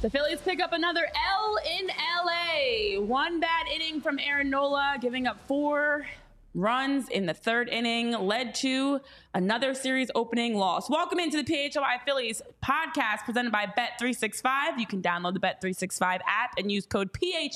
The Phillies pick up another L in LA. One bad inning from Aaron Nola, giving up 4 runs in the third inning, led to another series opening loss. Welcome into the PHLY Phillies podcast presented by Bet365. You can download the Bet365 app and use code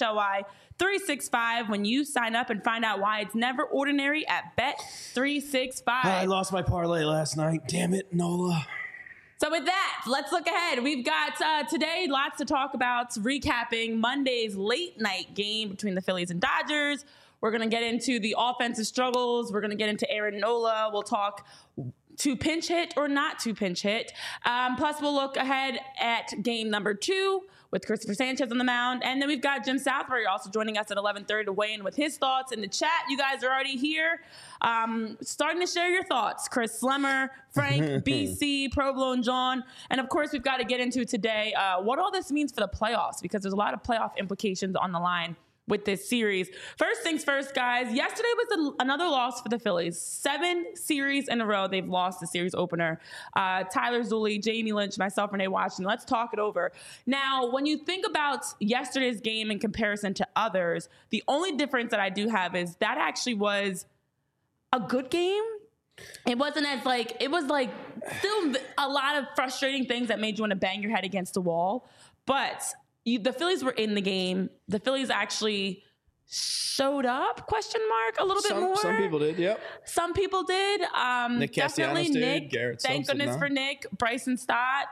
PHLY365 when you sign up and find out why it's never ordinary at Bet365. I lost my parlay last night. Damn it, Nola. So with that, let's look ahead. We've got today lots to talk about, recapping Monday's late night game between the Phillies and Dodgers. We're going to get into the offensive struggles. We're going to get into Aaron Nola. We'll talk to pinch hit or not to pinch hit. Plus, we'll look ahead at game number 2 with Christopher Sanchez on the mound. And then we've got Jim Southbury also joining us at 11:30 to weigh in with his thoughts in the chat. You guys are already here. Starting to share your thoughts. Chris Slemmer, Frank, BC, Provolone John. And of course, we've got to get into today what all this means for the playoffs, because there's a lot of playoff implications on the line with this series. First things first, guys. Yesterday was another loss for the Phillies. 7 series in a row they've lost the series opener. Tyler Zulli, Jamie Lynch, myself, Renee Washington. Let's talk it over. Now, when you think about yesterday's game in comparison to others, the only difference that I do have is that actually was a good game. It wasn't as it was still a lot of frustrating things that made you want to bang your head against the wall. But the Phillies were in the game. The Phillies actually showed up, a little bit more. Some people did, yep. Some people did. Nick Definitely Castellanos Nick. did. Garrett Thank Simpson, goodness no. for Nick. Bryson Stott.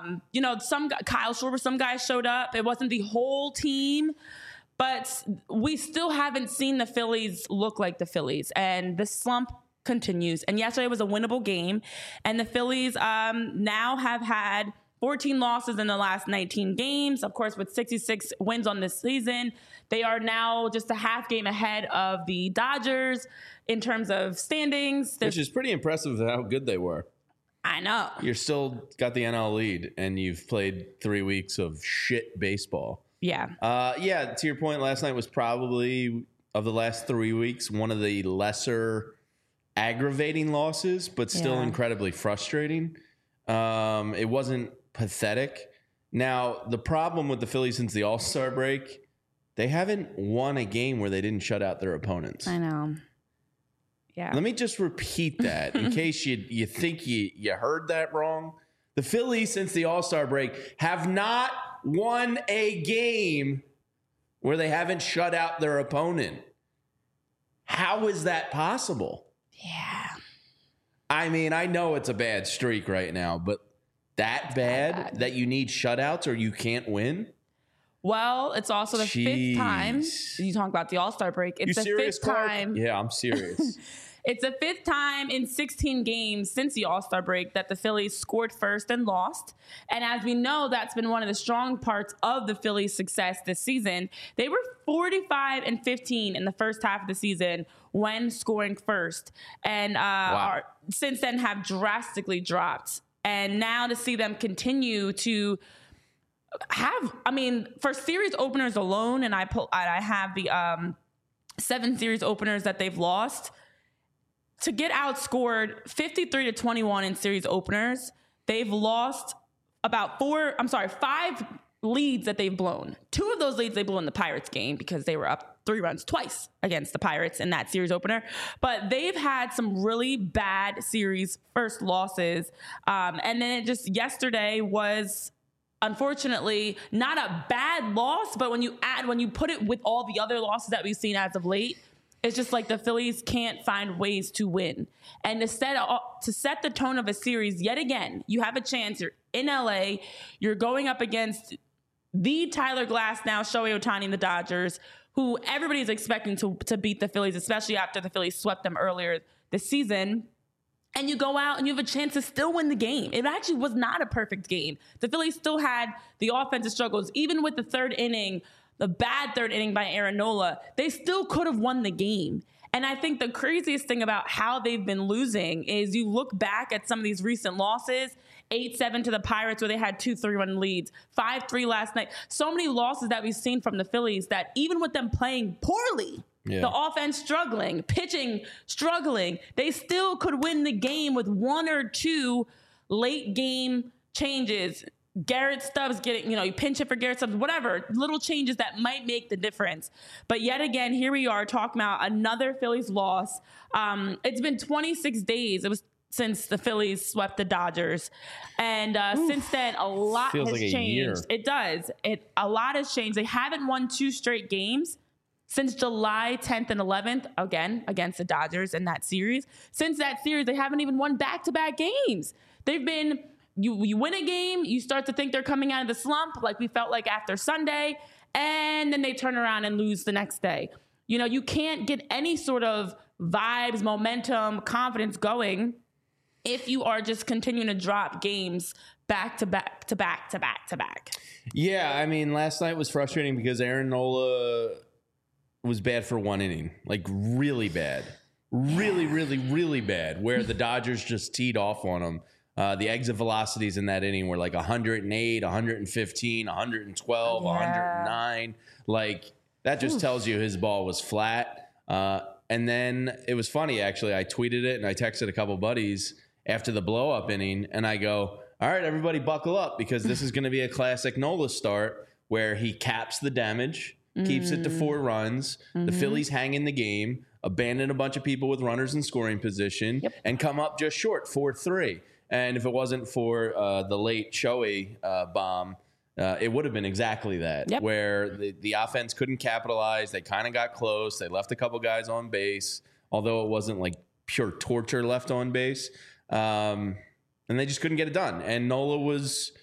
Kyle Schwarber, some guys showed up. It wasn't the whole team. But we still haven't seen the Phillies look like the Phillies. And the slump continues. And yesterday was a winnable game. And the Phillies now have had 14 losses in the last 19 games. Of course, with 66 wins on this season, they are now just a half game ahead of the Dodgers in terms of standings. Which is pretty impressive how good they were. I know. You're still got the NL lead, and you've played 3 weeks of shit baseball. Yeah. To your point, last night was probably, of the last 3 weeks, one of the lesser aggravating losses, but still incredibly frustrating. It wasn't pathetic. Now, the problem with the Phillies since the All-Star break, they haven't won a game where they didn't shut out their opponents. I know. Yeah. Let me just repeat that in case you think you heard that wrong. The Phillies since the All-Star break have not won a game where they haven't shut out their opponent. How is that possible? Yeah. I mean, I know it's a bad streak right now, but that bad that you need shutouts or you can't win? Well, it's also the 5th time. You talk about the All-Star break. It's the 5th time. Yeah, I'm serious. It's the 5th time in 16 games since the All-Star break that the Phillies scored first and lost. And as we know, that's been one of the strong parts of the Phillies' success this season. They were 45-15 in the first half of the season when scoring first. And since then have drastically dropped. And now to see them continue to have, for series openers alone, and I have the 7 series openers that they've lost, to get outscored 53-21 in series openers, they've lost about 5 leads that they've blown. 2 of those leads they blew in the Pirates game because they were up 3 runs twice against the Pirates in that series opener. But they've had some really bad series first losses. And then yesterday was unfortunately not a bad loss, but when you put it with all the other losses that we've seen as of late, it's just like the Phillies can't find ways to win. And to set the tone of a series yet again, you have a chance. You're in LA. You're going up against the Tyler Glasnow, Shohei Ohtani, and the Dodgers, who everybody's expecting to beat the Phillies, especially after the Phillies swept them earlier this season. And you go out and you have a chance to still win the game. It actually was not a perfect game. The Phillies still had the offensive struggles. Even with the third inning, the bad third inning by Aaron Nola, they still could have won the game. And I think the craziest thing about how they've been losing is you look back at some of these recent losses, 8-7 to the Pirates where they had 2 3-run leads, 5-3 last night. So many losses that we've seen from the Phillies that even with them playing poorly, the offense struggling, pitching struggling, they still could win the game with 1 or 2 late game changes Garrett Stubbs getting, you pinch it for Garrett Stubbs, whatever, little changes that might make the difference. But yet again, here we are talking about another Phillies loss. It's been 26 days. It was since the Phillies swept the Dodgers. And since then, a lot has like changed. Year. It does. A lot has changed. They haven't won 2 straight games since July 10th and 11th, again, against the Dodgers in that series. Since that series, they haven't even won back-to-back games. They've been... You win a game, you start to think they're coming out of the slump, like we felt like after Sunday, and then they turn around and lose the next day. You can't get any sort of vibes, momentum, confidence going if you are just continuing to drop games back to back to back to back to back. Yeah, I mean, last night was frustrating because Aaron Nola was bad for 1 inning, like really bad. Really, really, really bad, where the Dodgers just teed off on him. The exit velocities in that inning were like 108, 115, 112, 109. Like, that just tells you his ball was flat. And then it was funny, actually. I tweeted it and I texted a couple buddies after the blow-up inning, and I go, all right, everybody buckle up, because this is going to be a classic Nola start where he caps the damage, keeps it to 4 runs. The Phillies hang in the game, abandon a bunch of people with runners in scoring position, and come up just short, 4-3. And if it wasn't for the late Shohei bomb, it would have been exactly that, where the offense couldn't capitalize. They kind of got close. They left a couple guys on base, although it wasn't like pure torture left on base. And they just couldn't get it done. And Nola was,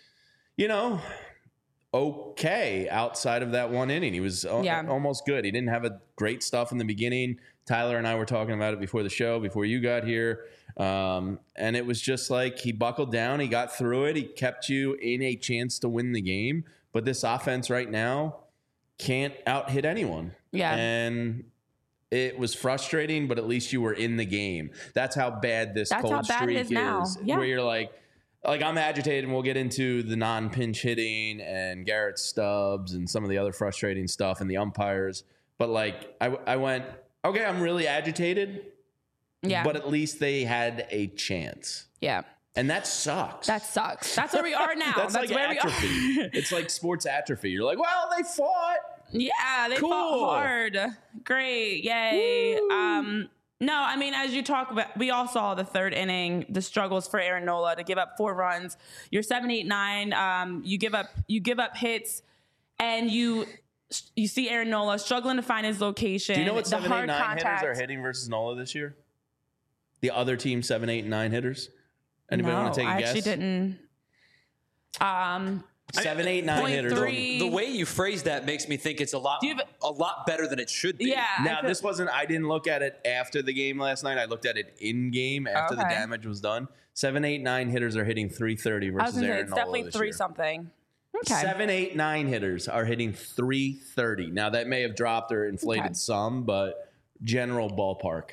okay outside of that 1 inning. He was almost good. He didn't have a great stuff in the beginning. Tyler and I were talking about it before the show, before you got here. And it was just like he buckled down. He got through it. He kept you in a chance to win the game. But this offense right now can't out-hit anyone. Yeah. And it was frustrating, but at least you were in the game. That's how bad this cold streak is. Now. Yeah. Where you're like I'm agitated, and we'll get into the non-pinch hitting and Garrett Stubbs and some of the other frustrating stuff and the umpires. But I went, okay, I'm really agitated. Yeah. But at least they had a chance. Yeah. And that sucks. That's where we are now. That's like where atrophy. We are. It's like sports atrophy. You're like, well, they fought. Yeah, they fought hard. Great. Yay. No, I mean, as you talk about, we all saw the 3rd inning, the struggles for Aaron Nola to give up 4 runs. You're 7, 8, 9. You give up hits, and you see Aaron Nola struggling to find his location. Do you know what 7, 8, 9 hitters are hitting versus Nola this year? The other team, 7, 8, 9 hitters. Anybody want to take a guess? I actually didn't. 7, 8, 9 hitters. The way you phrase that makes me think it's a lot better than it should be. Yeah. Now, this wasn't. I didn't look at it after the game last night. I looked at it in game after the damage was done. 7, 8, 9 hitters are hitting 330 versus Aaron Nola. It's definitely 3 something. Okay. 7, 8, 9 hitters are hitting 330. Now that may have dropped or inflated some, but general ballpark.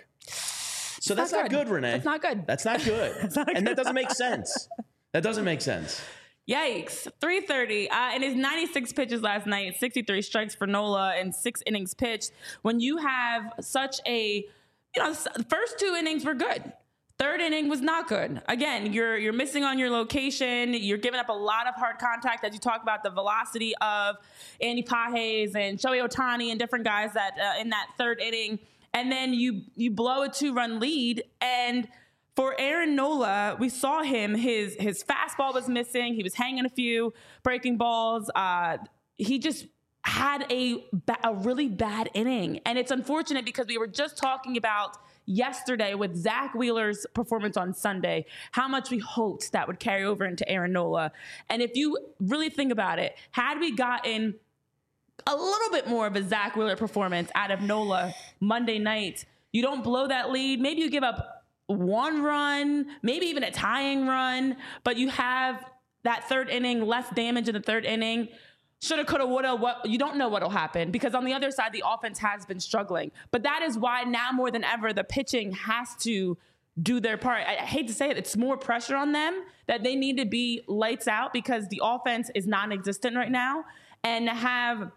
So that's not good, Renee. That's not good. That's not good. And that doesn't make sense. That doesn't make sense. Yikes. 330. In his 96 pitches last night, 63 strikes for Nola and 6 innings pitched. When you have such a, the first 2 innings were good. 3rd inning was not good. Again, you're missing on your location. You're giving up a lot of hard contact, as you talk about the velocity of Andy Pages and Shohei Ohtani and different guys that in that 3rd inning. And then you blow a 2-run lead. And for Aaron Nola, we saw him. His fastball was missing. He was hanging a few breaking balls. He just had a really bad inning. And it's unfortunate because we were just talking about yesterday with Zach Wheeler's performance on Sunday, how much we hoped that would carry over into Aaron Nola. And if you really think about it, had we gotten a little bit more of a Zach Wheeler performance out of Nola Monday night, you don't blow that lead. Maybe you give up 1 run, maybe even a tying run, but you have that 3rd inning, less damage in the 3rd inning. Shoulda, coulda, woulda. You don't know what'll happen because on the other side, the offense has been struggling. But that is why now more than ever, the pitching has to do their part. I hate to say it. It's more pressure on them that they need to be lights out because the offense is non-existent right now. And to have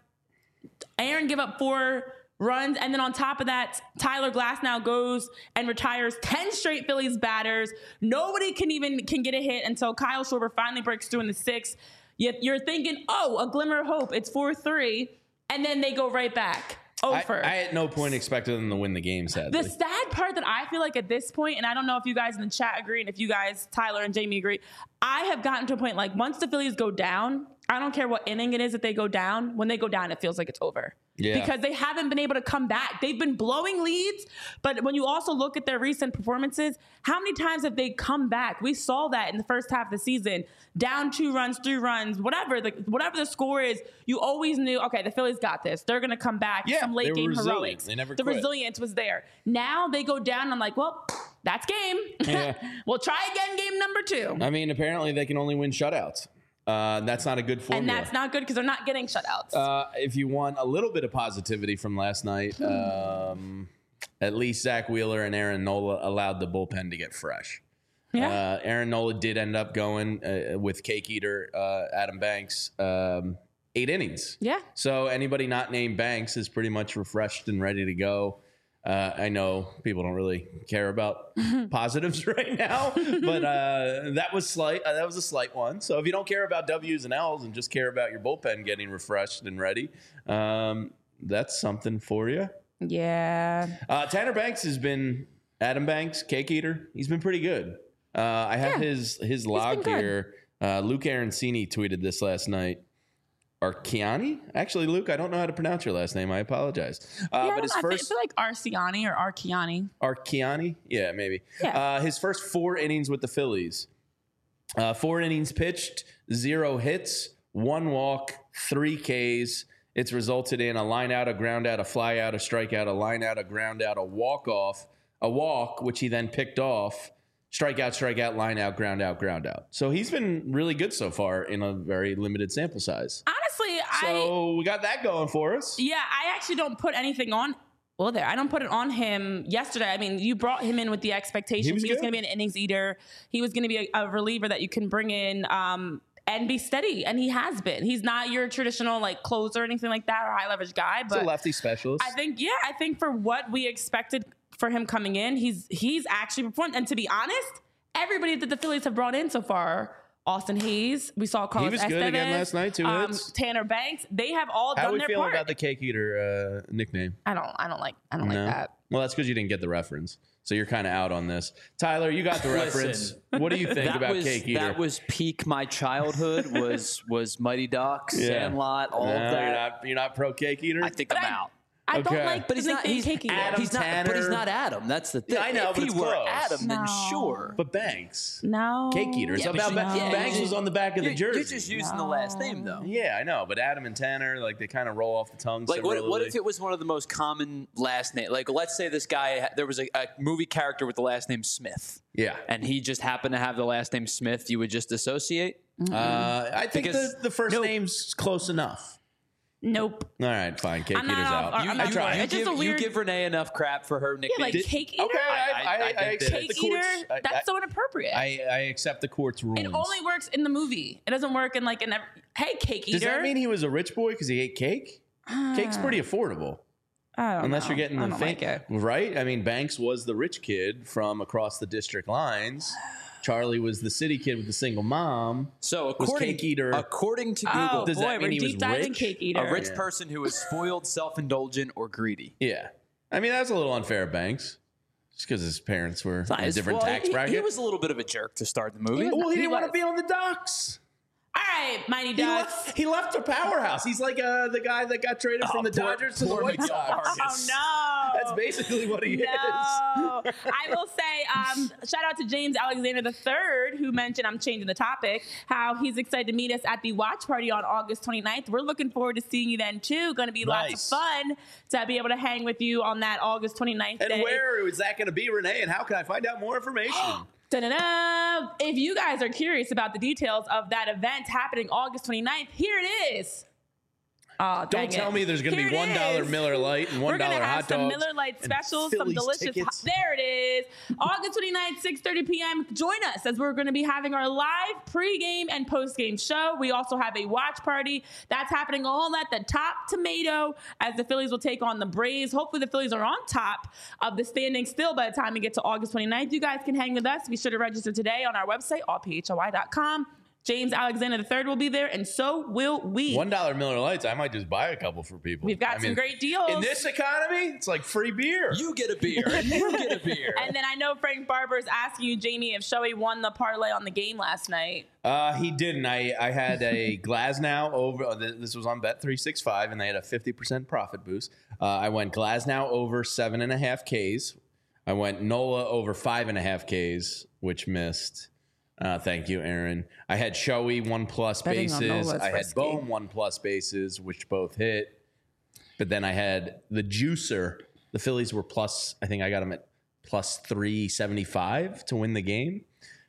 Aaron give up 4 runs, and then on top of that, Tyler Glasnow goes and retires 10 straight Phillies batters. Nobody can get a hit until Kyle Schwarber finally breaks through in the 6th. You're thinking, oh, a glimmer of hope. It's 4-3. And then they go right back. Over. I at no point expected them to win the game, sadly. The sad part that I feel like at this point, and I don't know if you guys in the chat agree, and if you guys, Tyler and Jamie, agree, I have gotten to a point like once the Phillies go down, I don't care what inning it is that they go down. When they go down, it feels like it's over. Yeah. Because they haven't been able to come back. They've been blowing leads, but when you also look at their recent performances, how many times have they come back? We saw that in the first half of the season. Down 2 runs, 3 runs, whatever the score is, you always knew, okay, the Phillies got this. They're going to come back. Yeah, some late game heroics. They never the quit. Resilience was there. Now they go down. I'm like, well, that's game. Yeah. We'll try again game number 2. I mean, apparently they can only win shutouts. That's not a good formula. And that's not good because they're not getting shutouts. If you want a little bit of positivity from last night, at least Zach Wheeler and Aaron Nola allowed the bullpen to get fresh. Yeah. Aaron Nola did end up going with Cake Eater, Adam Banks, 8 innings. Yeah. So anybody not named Banks is pretty much refreshed and ready to go. I know people don't really care about positives right now, but that was slight. That was a slight one. So if you don't care about W's and L's and just care about your bullpen getting refreshed and ready, that's something for you. Yeah. Tanner Banks has been Adam Banks, Cake Eater. He's been pretty good. I have his log here. Luke Arancini tweeted this last night. Arciani? Actually, Luke, I don't know how to pronounce your last name. I apologize. But his first, I feel like Arciani or Arciani. Arciani? Yeah, maybe. Yeah. His first 4 innings with the Phillies. 4 innings pitched, 0 hits, 1 walk, 3 Ks. It's resulted in a line out, a ground out, a fly out, a strikeout, a line out, a ground out, a walk off, a walk, which he then picked off. Strikeout, line out, ground out, ground out. So he's been really good so far in a very limited sample size. Honestly, So we got that going for us. Yeah, I actually don't put anything on. Well, I don't put it on him yesterday. I mean, you brought him in with the expectation he was going to be an innings eater. He was going to be a reliever that you can bring in and be steady, and he has been. He's not your traditional like closer or anything like that or high leverage guy, but he's a lefty specialist. I think for what we expected for him coming in, he's actually performed. And to be honest, everybody that the Phillies have brought in so far, Austin Hayes, we saw Carlos Estevez. He was good again last night, 2 hits. Tanner Banks, they have all done their part. How do we feel about the Cake Eater nickname? I don't like that. Well, that's because you didn't get the reference. So you're kind of out on this. Tyler, you got the reference. What do you think about Cake Eater? That was peak my childhood, was Mighty Ducks, Sandlot, all of that. You're not pro Cake Eater? I think I'm out. I don't like, but he's not. He's Cake Eater. But he's not Adam. That's the thing. Yeah, I know, if but he it's were close. Adam, then sure. But Banks. No. Cake Eater. It's about Banks was on the back of the jersey. You're just using the last name, though. Yeah, I know. But Adam and Tanner, like, they kind of roll off the tongue. Like, what if it was one of the most common last names? Like, let's say this guy, there was a movie character with the last name Smith. Yeah. And he just happened to have the last name Smith. You would just associate? I think the first name's close enough. Nope. All right, fine. Cake Eater's out. You give Renee enough crap for her nickname. Yeah, like Cake Eater? Okay, I accept Cake the court's... Eater? That's so inappropriate. I accept the court's rules. It only works in the movie. It doesn't work in like in every... Hey, Cake Eater. Does that mean he was a rich boy because he ate cake? Cake's pretty affordable. Unless you're getting the like it. Right? I mean, Banks was the rich kid from across the district lines. Charlie was the city kid with the single mom. So according to Google, does that mean he was rich? Cake Eater. A rich person who is spoiled, self-indulgent, or greedy. Yeah. I mean, that's a little unfair of Banks. Just because his parents were in a different tax bracket. He was a little bit of a jerk to start the movie. He didn't want to be on the docks. All right, Mighty Ducks. He left the powerhouse. He's like the guy that got traded from the Dodgers to the White Sox. Oh, no. That's basically what he is. I will say, shout out to James Alexander III, who mentioned, I'm changing the topic, how he's excited to meet us at the watch party on August 29th. We're looking forward to seeing you then, too. Going to be lots of fun to be able to hang with you on that August 29th day. And where is that going to be, Renee? And how can I find out more information? Da-da-da. If you guys are curious about the details of that event happening August 29th, here it is. Oh, don't tell me there's going to be $1 Miller Lite and $1 hot dogs. We're going to have some Miller Lite specials, some delicious. There it is. August 29th, 6:30 p.m. Join us as we're going to be having our live pregame and postgame show. We also have a watch party that's happening all at the Top Tomato as the Phillies will take on the Braves. Hopefully the Phillies are on top of the standings still by the time we get to August 29th. You guys can hang with us. Be sure to register today on our website, allphoi.com. James Alexander III will be there, and so will we. $1 Miller Lights. I might just buy a couple for people. We've got some great deals. In this economy, it's like free beer. You get a beer. You get a beer. And then I know Frank Barber is asking you, Jamie, if Shohei won the parlay on the game last night. He didn't. I had a Glasnow over. This was on Bet365, and they had a 50% profit boost. I went Glasnow over 7.5 Ks. I went Nola over 5.5 Ks, which missed. Thank you, Aaron. I had Shohei 1+ bases. I had Bohm 1+ bases, which both hit. But then I had the juicer. The Phillies were plus. I think I got them at plus 375 to win the game.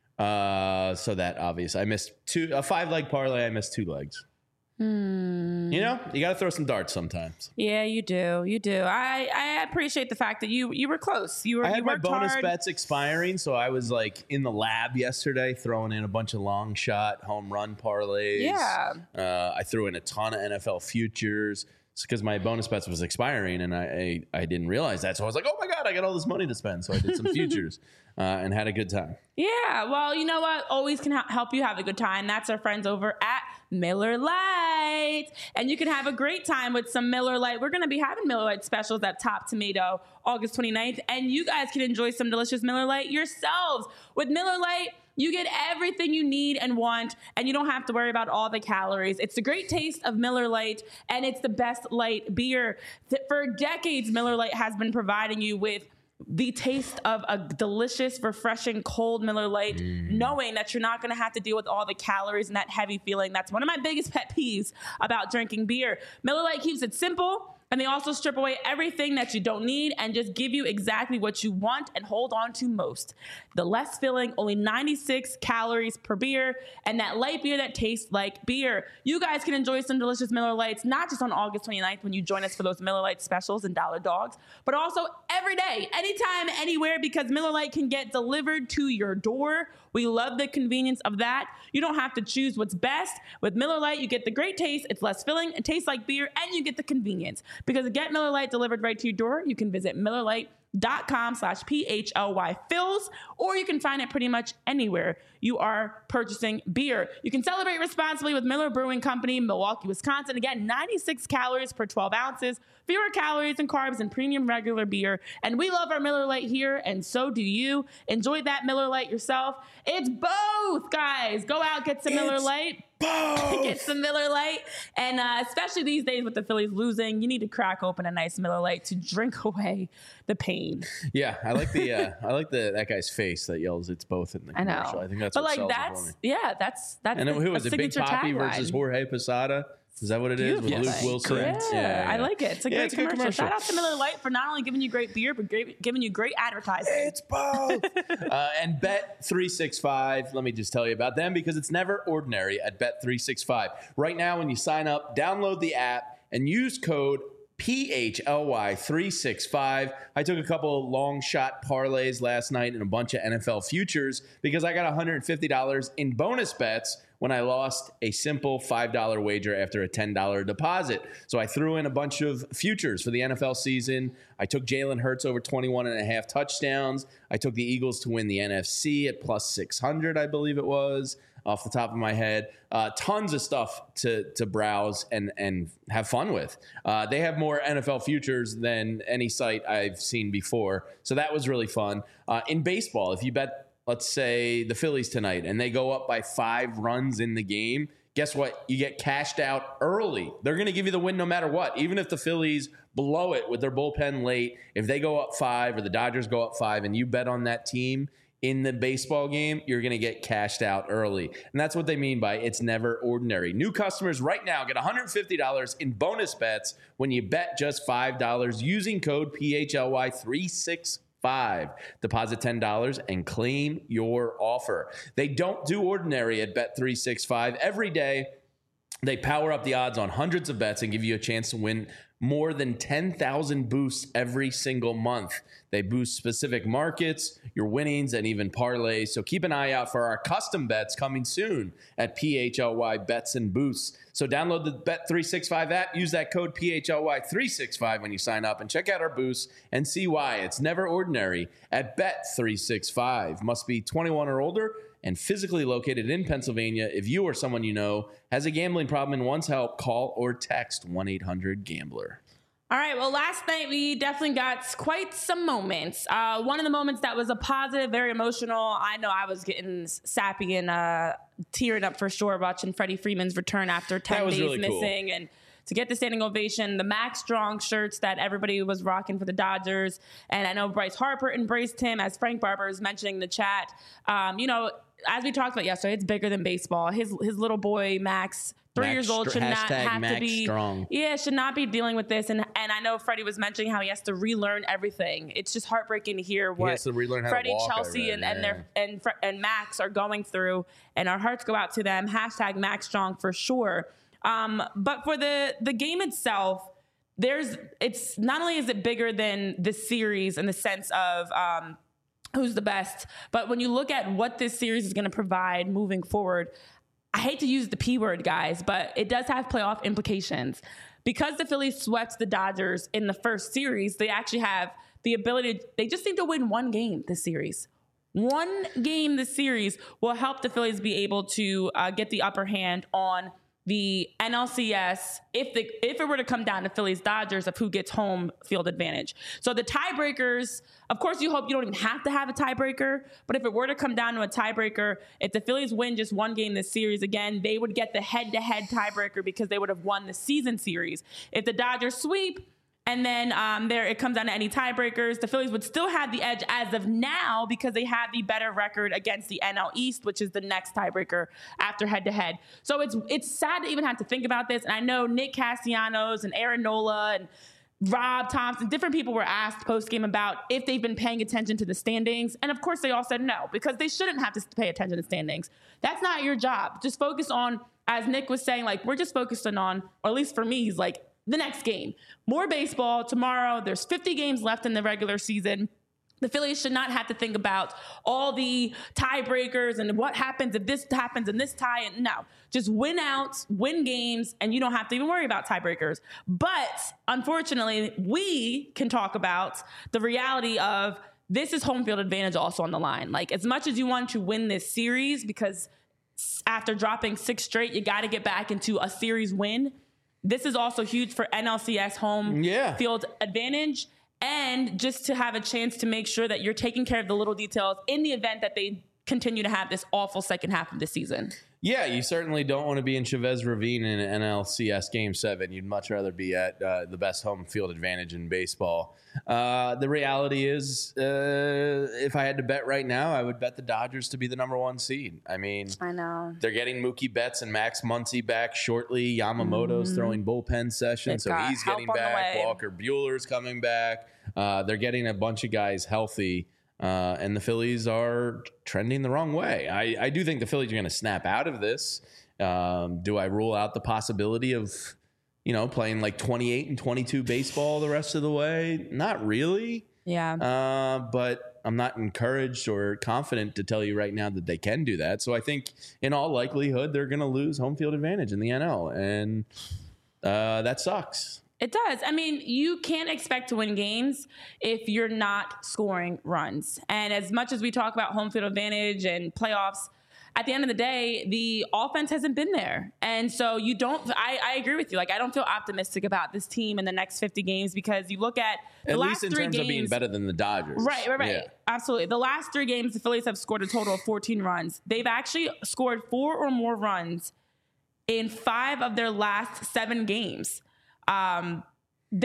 So that obvious. I missed a 5-leg parlay. I missed 2 legs. You know, you got to throw some darts sometimes. Yeah, you do. You do. I appreciate the fact that you were close. I had my bonus bets expiring, so I was like in the lab yesterday throwing in a bunch of long shot home run parlays. Yeah. I threw in a ton of NFL futures because my bonus bets was expiring, and I didn't realize that. So I was like, oh my God, I got all this money to spend. So I did some futures and had a good time. Yeah. Well, you know what? Always can help you have a good time. That's our friends over at Miller Lite. And you can have a great time with some Miller Lite. We're going to be having Miller Lite specials at Top Tomato August 29th. And you guys can enjoy some delicious Miller Lite yourselves. With Miller Lite, you get everything you need and want, and you don't have to worry about all the calories. It's the great taste of Miller Lite, and it's the best light beer. For decades, Miller Lite has been providing you with the taste of a delicious, refreshing, cold Miller Lite, knowing that you're not going to have to deal with all the calories and that heavy feeling. That's one of my biggest pet peeves about drinking beer. Miller Lite keeps it simple, and they also strip away everything that you don't need and just give you exactly what you want and hold on to most. The less filling, only 96 calories per beer, and that light beer that tastes like beer. You guys can enjoy some delicious Miller Lights, not just on August 29th when you join us for those Miller Lite specials and Dollar Dogs, but also every day, anytime, anywhere, because Miller Lite can get delivered to your door. We love the convenience of that. You don't have to choose what's best. With Miller Lite, you get the great taste, it's less filling, it tastes like beer, and you get the convenience. Because to get Miller Lite delivered right to your door, you can visit MillerLite.com/PHLYFills, or you can find it pretty much anywhere you are purchasing beer. You can celebrate responsibly with Miller Brewing Company, Milwaukee, Wisconsin. Again, 96 calories per 12 ounces, fewer calories and carbs than premium regular beer. And we love our Miller Lite here, and so do you. Enjoy that Miller Lite yourself. It's both, guys. Go out, get some Miller Lite. Get some Miller Lite. And especially these days with the Phillies losing, you need to crack open a nice Miller Lite to drink away the pain. Yeah, I like that guy's face that yells "It's both" in the commercial. I think that's but what like sells it for me. Yeah, that's And then who was it? Big Papi versus Jorge Posada. Is that what it is with Luke Wilson? Yeah, I like it. It's a great commercial. Shout out to Miller Lite for not only giving you great beer, but giving you great advertising. It's both. And Bet365, let me just tell you about them because it's never ordinary at Bet365. Right now, when you sign up, download the app and use code PHLY365. I took a couple of long shot parlays last night and a bunch of NFL futures because I got $150 in bonus bets when I lost a simple $5 wager after a $10 deposit. So I threw in a bunch of futures for the NFL season. I took Jalen Hurts over 21.5 touchdowns. I took the Eagles to win the NFC at plus 600, I believe it was, off the top of my head. Tons of stuff to browse and have fun with. They have more NFL futures than any site I've seen before. So that was really fun. In baseball, if you bet, let's say, the Phillies tonight, and they go up by 5 runs in the game, guess what? You get cashed out early. They're going to give you the win no matter what. Even if the Phillies blow it with their bullpen late, if they go up 5 or the Dodgers go up 5 and you bet on that team in the baseball game, you're going to get cashed out early. And that's what they mean by it's never ordinary. New customers right now get $150 in bonus bets when you bet just $5 using code PHLY365. Deposit $10 and claim your offer. They don't do ordinary at Bet365. Every day, they power up the odds on hundreds of bets and give you a chance to win more than 10,000 boosts every single month. They boost specific markets, your winnings, and even parlays. So keep an eye out for our custom bets coming soon at PHLY Bets and Boosts. So download the Bet365 app, use that code PHLY365 when you sign up, and check out our boosts and see why it's never ordinary at Bet365. Must be 21 or older and physically located in Pennsylvania. If you or someone you know has a gambling problem and wants help, call or text 1-800-GAMBLER. All right. Well, last night we definitely got quite some moments. One of the moments that was a positive, very emotional. I know I was getting sappy and tearing up for sure watching Freddie Freeman's return after 10 days really missing. Cool. And to get the standing ovation, the Max Strong shirts that everybody was rocking for the Dodgers. And I know Bryce Harper embraced him, as Frank Barber is mentioning in the chat. You know, as we talked about yesterday, it's bigger than baseball. His little boy, Max, 3 years old, should not have to be strong. Yeah, should not be dealing with this. And I know Freddie was mentioning how he has to relearn everything. It's just heartbreaking to hear what Freddie, Chelsea, and Max are going through. And our hearts go out to them. Hashtag Max Strong for sure. But for the game itself, it's not only is it bigger than the series in the sense of who's the best, but when you look at what this series is going to provide moving forward, I hate to use the P word, guys, but it does have playoff implications. Because the Phillies swept the Dodgers in the first series, they actually have the ability, they just need to win one game this series. One game this series will help the Phillies be able to get the upper hand on the NLCS if it were to come down to Phillies Dodgers of who gets home field advantage. So the tiebreakers, of course, you hope you don't even have to have a tiebreaker, but if it were to come down to a tiebreaker, if the Phillies win just one game this series, again, they would get the head-to-head tiebreaker because they would have won the season series. If the Dodgers sweep, and then it comes down to any tiebreakers, the Phillies would still have the edge as of now because they have the better record against the NL East, which is the next tiebreaker after head-to-head. So it's sad to even have to think about this. And I know Nick Castellanos and Aaron Nola and Rob Thompson, different people were asked post-game about if they've been paying attention to the standings. And of course, they all said no, because they shouldn't have to pay attention to standings. That's not your job. Just focus on, as Nick was saying, like, we're just focusing on, or at least for me, he's like, the next game. More baseball tomorrow. There's 50 games left in the regular season. The Phillies should not have to think about all the tiebreakers and what happens if this happens in this tie. And no, just win outs, win games, and you don't have to even worry about tiebreakers. But unfortunately, we can talk about the reality of this is home field advantage also on the line. Like, as much as you want to win this series, because after dropping 6 straight, you got to get back into a series win. This is also huge for NLCS home field advantage, and just to have a chance to make sure that you're taking care of the little details in the event that they continue to have this awful second half of the season. Yeah, you certainly don't want to be in Chavez Ravine in an NLCS Game 7. You'd much rather be at the best home field advantage in baseball. The reality is, if I had to bet right now, I would bet the Dodgers to be the number 1 seed. I mean, I know they're getting Mookie Betts and Max Muncy back shortly. Yamamoto's throwing bullpen sessions, so he's getting back. Walker Buehler's coming back. They're getting a bunch of guys healthy. And the Phillies are trending the wrong way. I do think the Phillies are going to snap out of this. Do I rule out the possibility of, playing like 28 and 22 baseball the rest of the way? Not really. Yeah. But I'm not encouraged or confident to tell you right now that they can do that. So I think in all likelihood, they're going to lose home field advantage in the NL. And that sucks. It does. I mean, you can't expect to win games if you're not scoring runs. And as much as we talk about home field advantage and playoffs, at the end of the day, the offense hasn't been there. And so I agree with you. Like, I don't feel optimistic about this team in the next 50 games because you look at the last 3 games. At least in terms of being better than the Dodgers. Right. Yeah. Absolutely. The last 3 games, the Phillies have scored a total of 14 runs. They've actually scored 4 or more runs in 5 of their last 7 games. One of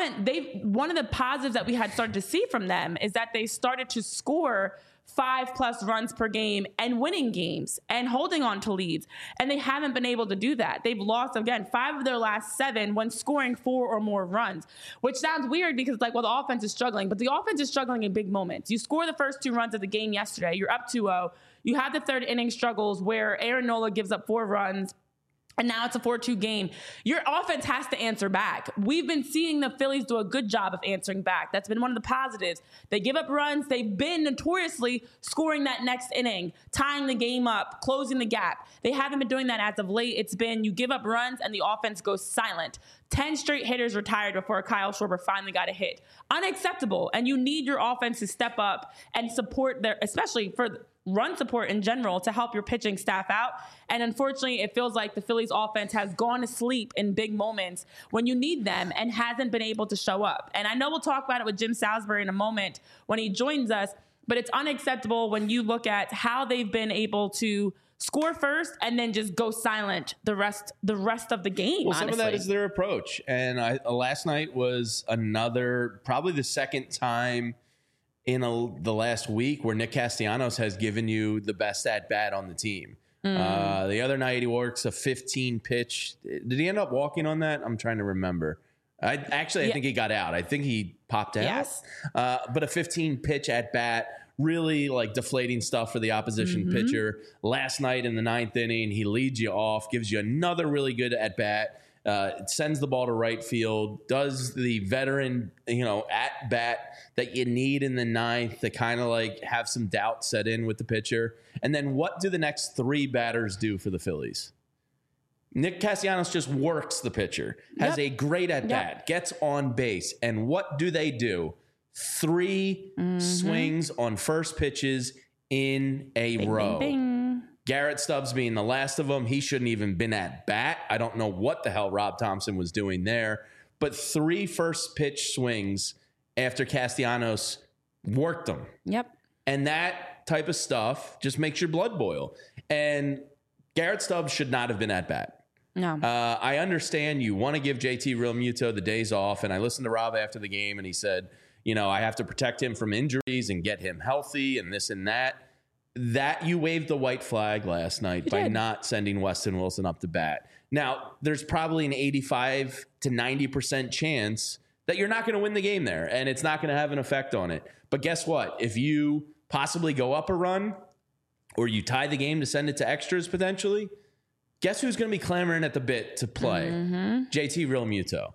the positives that we had started to see from them is that they started to score 5+ runs per game and winning games and holding on to leads. And they haven't been able to do that. They've lost, again, 5 of their last 7 when scoring 4 or more runs, which sounds weird because the offense is struggling, but the offense is struggling in big moments. You score the first 2 runs of the game yesterday. You're up 2-0. You have the 3rd inning struggles where Aaron Nola gives up 4 runs. And now it's a 4-2 game. Your offense has to answer back. We've been seeing the Phillies do a good job of answering back. That's been one of the positives. They give up runs. They've been notoriously scoring that next inning, tying the game up, closing the gap. They haven't been doing that as of late. It's been you give up runs and the offense goes silent. 10 straight hitters retired before Kyle Schwarber finally got a hit. Unacceptable. And you need your offense to step up and support especially for run support in general to help your pitching staff out. And unfortunately, it feels like the Phillies offense has gone to sleep in big moments when you need them and hasn't been able to show up. And I know we'll talk about it with Jim Salisbury in a moment when he joins us, but it's unacceptable when you look at how they've been able to score first and then just go silent the rest of the game. Well, some of that is their approach. And last night was probably the second time in the last week where Nick Castellanos has given you the best at bat on the team. The other night he works a 15 pitch. Did he end up walking on that? I'm trying to remember. I think he got out. I think he popped out. Yes. But a 15 pitch at bat, really like deflating stuff for the opposition pitcher. Last night in the 9th inning, he leads you off, gives you another really good at bat. Sends the ball to right field, does the veteran, at bat that you need in the 9th to kind of like have some doubt set in with the pitcher. And then what do the next 3 batters do for the Phillies? Nick Castellanos just works the pitcher, has a great at bat, gets on base. And what do they do? 3 swings on first pitches in a row. Bing, bing. Garrett Stubbs being the last of them. He shouldn't even been at bat. I don't know what the hell Rob Thompson was doing there. But 3 first pitch swings after Castellanos worked them. Yep. And that type of stuff just makes your blood boil. And Garrett Stubbs should not have been at bat. No. I understand you want to give JT Realmuto the days off. And I listened to Rob after the game and he said, I have to protect him from injuries and get him healthy and this and that. That you waved the white flag last night by not sending Weston Wilson up to bat. Now, there's probably an 85 to 90% chance that you're not going to win the game there, and it's not going to have an effect on it. But guess what? If you possibly go up a run or you tie the game to send it to extras potentially, guess who's going to be clamoring at the bit to play? JT Realmuto.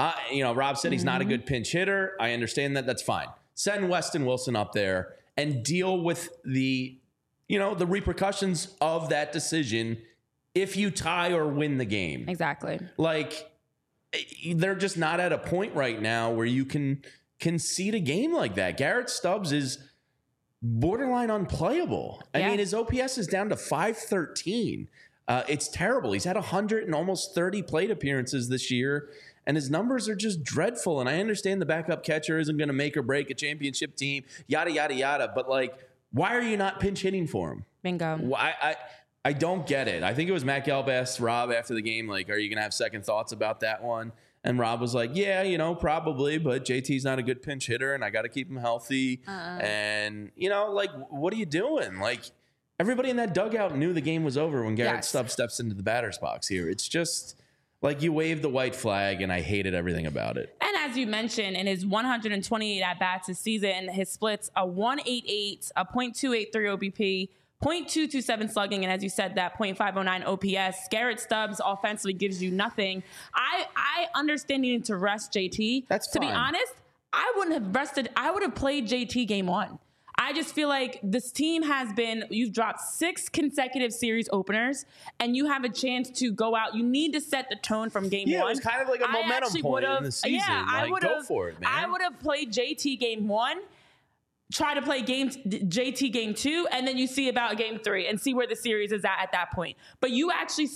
Rob said he's not a good pinch hitter. I understand that. That's fine. Send Weston Wilson up there and deal with the repercussions of that decision if you tie or win the game. Exactly. Like, they're just not at a point right now where you can concede a game like that. Garrett Stubbs is borderline unplayable. I mean, his OPS is down to 513. It's terrible. He's had 100 and almost 30 plate appearances this year, and his numbers are just dreadful. And I understand the backup catcher isn't going to make or break a championship team, yada, yada, yada. But, why are you not pinch hitting for him? Bingo. I don't get it. I think it was Matt Gelb asked Rob after the game, are you going to have second thoughts about that one? And Rob was like, yeah, probably, but JT's not a good pinch hitter, and I got to keep him healthy. And, what are you doing? Everybody in that dugout knew the game was over when Garrett Stubbs steps into the batter's box here. It's just you waved the white flag, and I hated everything about it. And as you mentioned, in his 128 at-bats this season, his splits a 1.88, a .283 OBP, .227 slugging, and as you said, that .509 OPS. Garrett Stubbs offensively gives you nothing. I understand needing to rest JT. That's fine. To be honest, I wouldn't have rested. I would have played JT game 1. I just feel like this team you've dropped 6 consecutive series openers, and you have a chance to go out. You need to set the tone from game 1. Yeah, it was kind of like a momentum point in the season. Yeah, I would have. Go for it, man. I would have played JT game 1, try to play JT game 2, and then you see about game 3 and see where the series is at that point. But you actually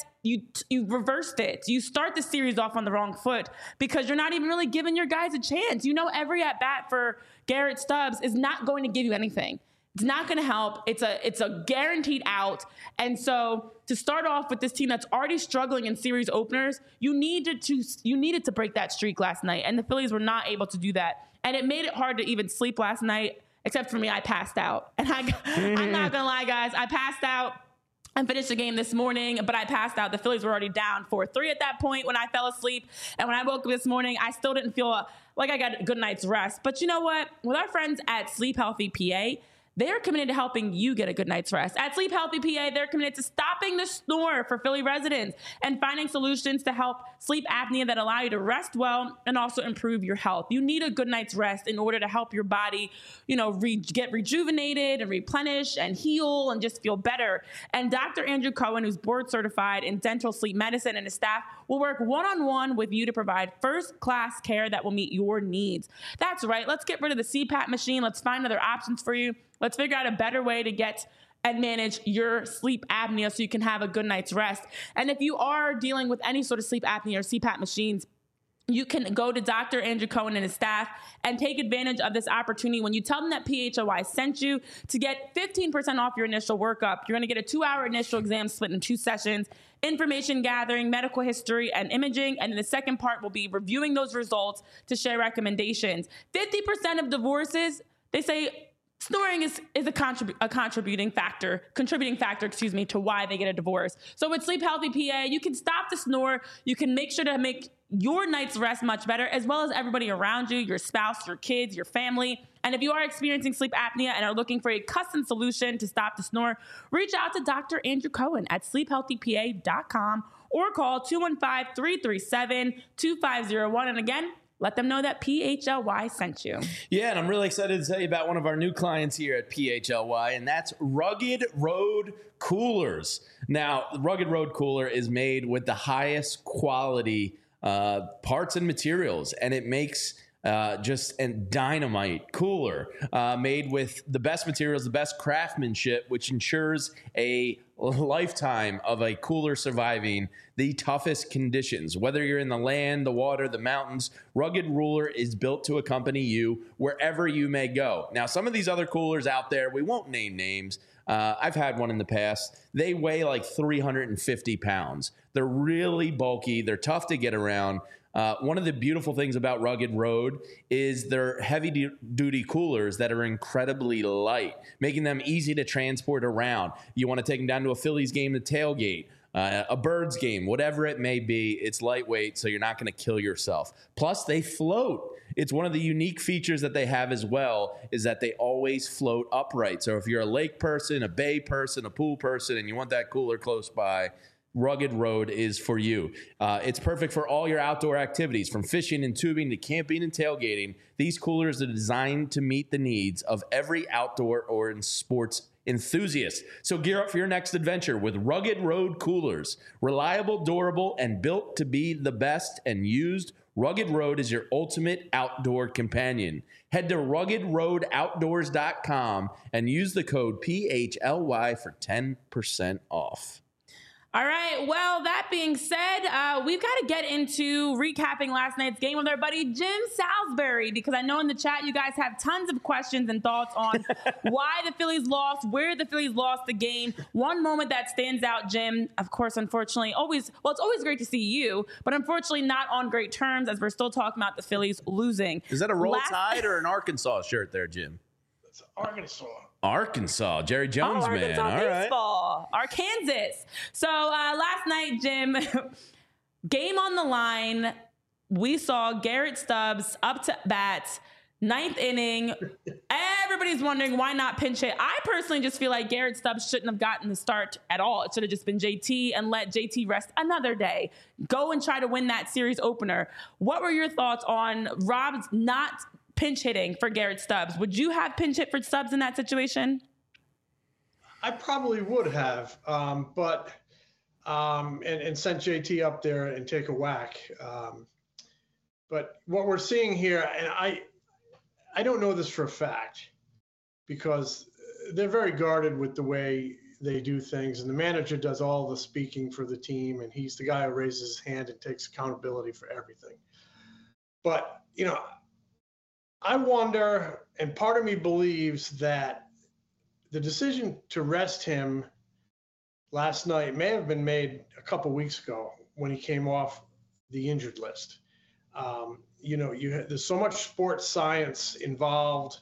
you reversed it. You start the series off on the wrong foot because you're not even really giving your guys a chance. Every at bat for Garrett Stubbs is not going to give you anything. It's not going to help. It's a guaranteed out. And so to start off with this team that's already struggling in series openers, you needed to break that streak last night, and the Phillies were not able to do that. And it made it hard to even sleep last night, except for me. I passed out. And I'm not going to lie, guys. I passed out. I finished the game this morning, but I passed out. The Phillies were already down 4-3 at that point when I fell asleep. And when I woke up this morning, I still didn't feel like I got a good night's rest. But you know what? With our friends at Sleep Healthy PA, they're committed to helping you get a good night's rest. At Sleep Healthy PA, they're committed to stopping the snore for Philly residents and finding solutions to help sleep apnea that allow you to rest well and also improve your health. You need a good night's rest in order to help your body, get rejuvenated and replenish and heal and just feel better. And Dr. Andrew Cohen, who's board certified in dental sleep medicine, and his staff will work one-on-one with you to provide first-class care that will meet your needs. That's right. Let's get rid of the CPAP machine. Let's find other options for you. Let's figure out a better way to get and manage your sleep apnea so you can have a good night's rest. And if you are dealing with any sort of sleep apnea or CPAP machines, you can go to Dr. Andrew Cohen and his staff and take advantage of this opportunity. When you tell them that PHLY sent you, to get 15% off your initial workup, you're going to get a 2-hour initial exam split in 2 sessions, information gathering, medical history, and imaging. And then the second part will be reviewing those results to share recommendations. 50% of divorces, they say, snoring is a contributing factor, to why they get a divorce. So with Sleep Healthy PA, you can stop the snore. You can make sure to make your night's rest much better, as well as everybody around you, your spouse, your kids, your family. And if you are experiencing sleep apnea and are looking for a custom solution to stop the snore, reach out to Dr. Andrew Cohen at sleephealthypa.com or call 215-337-2501. And again, let them know that PHLY sent you. Yeah, and I'm really excited to tell you about one of our new clients here at PHLY, and that's Rugged Road Coolers. Now, the Rugged Road Cooler is made with the highest quality parts and materials, and it makes just a dynamite cooler made with the best materials, the best craftsmanship, which ensures a lifetime of a cooler surviving the toughest conditions. Whether you're in the land, the water, the mountains, Rugged Ruler is built to accompany you wherever you may go. Now, some of these other coolers out there, we won't name names. I've had one in the past. They weigh like 350 pounds. They're really bulky. They're tough to get around. One of the beautiful things about Rugged Road is their heavy-duty coolers that are incredibly light, making them easy to transport around. You want to take them down to a Phillies game to tailgate, a Birds game, whatever it may be. It's lightweight, so you're not going to kill yourself. Plus, they float. It's one of the unique features that they have as well is that they always float upright. So if you're a lake person, a bay person, a pool person, and you want that cooler close by, Rugged Road is for you. It's perfect for all your outdoor activities, from fishing and tubing to camping and tailgating. These coolers are designed to meet the needs of every outdoor or in sports enthusiast. So gear up for your next adventure with Rugged Road Coolers. Reliable, durable, and built to be the best and used, Rugged Road is your ultimate outdoor companion. Head to ruggedroadoutdoors.com and use the code PHLY for 10% off. All right. Well, that being said, we've got to get into recapping last night's game with our buddy Jim Salisbury, because I know in the chat you guys have tons of questions and thoughts on why the Phillies lost, where the Phillies lost the game. One moment that stands out, Jim, of course, unfortunately, it's always great to see you, but unfortunately not on great terms as we're still talking about the Phillies losing. Is that a Roll Tide or an Arkansas shirt there, Jim? It's Arkansas. Arkansas, Jerry Jones, man. Arkansas All baseball. Arkansas. So last night, Jim, game on the line. We saw Garrett Stubbs up to bat, 9th inning. Everybody's wondering why not pinch hit. I personally just feel like Garrett Stubbs shouldn't have gotten the start at all. It should have just been JT and let JT rest another day. Go and try to win that series opener. What were your thoughts on Rob's not pinch hitting for Garrett Stubbs? Would you have pinch hit for Stubbs in that situation? I probably would have, but sent JT up there and take a whack. But what we're seeing here, and I don't know this for a fact, because they're very guarded with the way they do things, and the manager does all the speaking for the team, and he's the guy who raises his hand and takes accountability for everything. But, I wonder, and part of me believes that the decision to rest him last night may have been made a couple weeks ago when he came off the injured list. There's so much sports science involved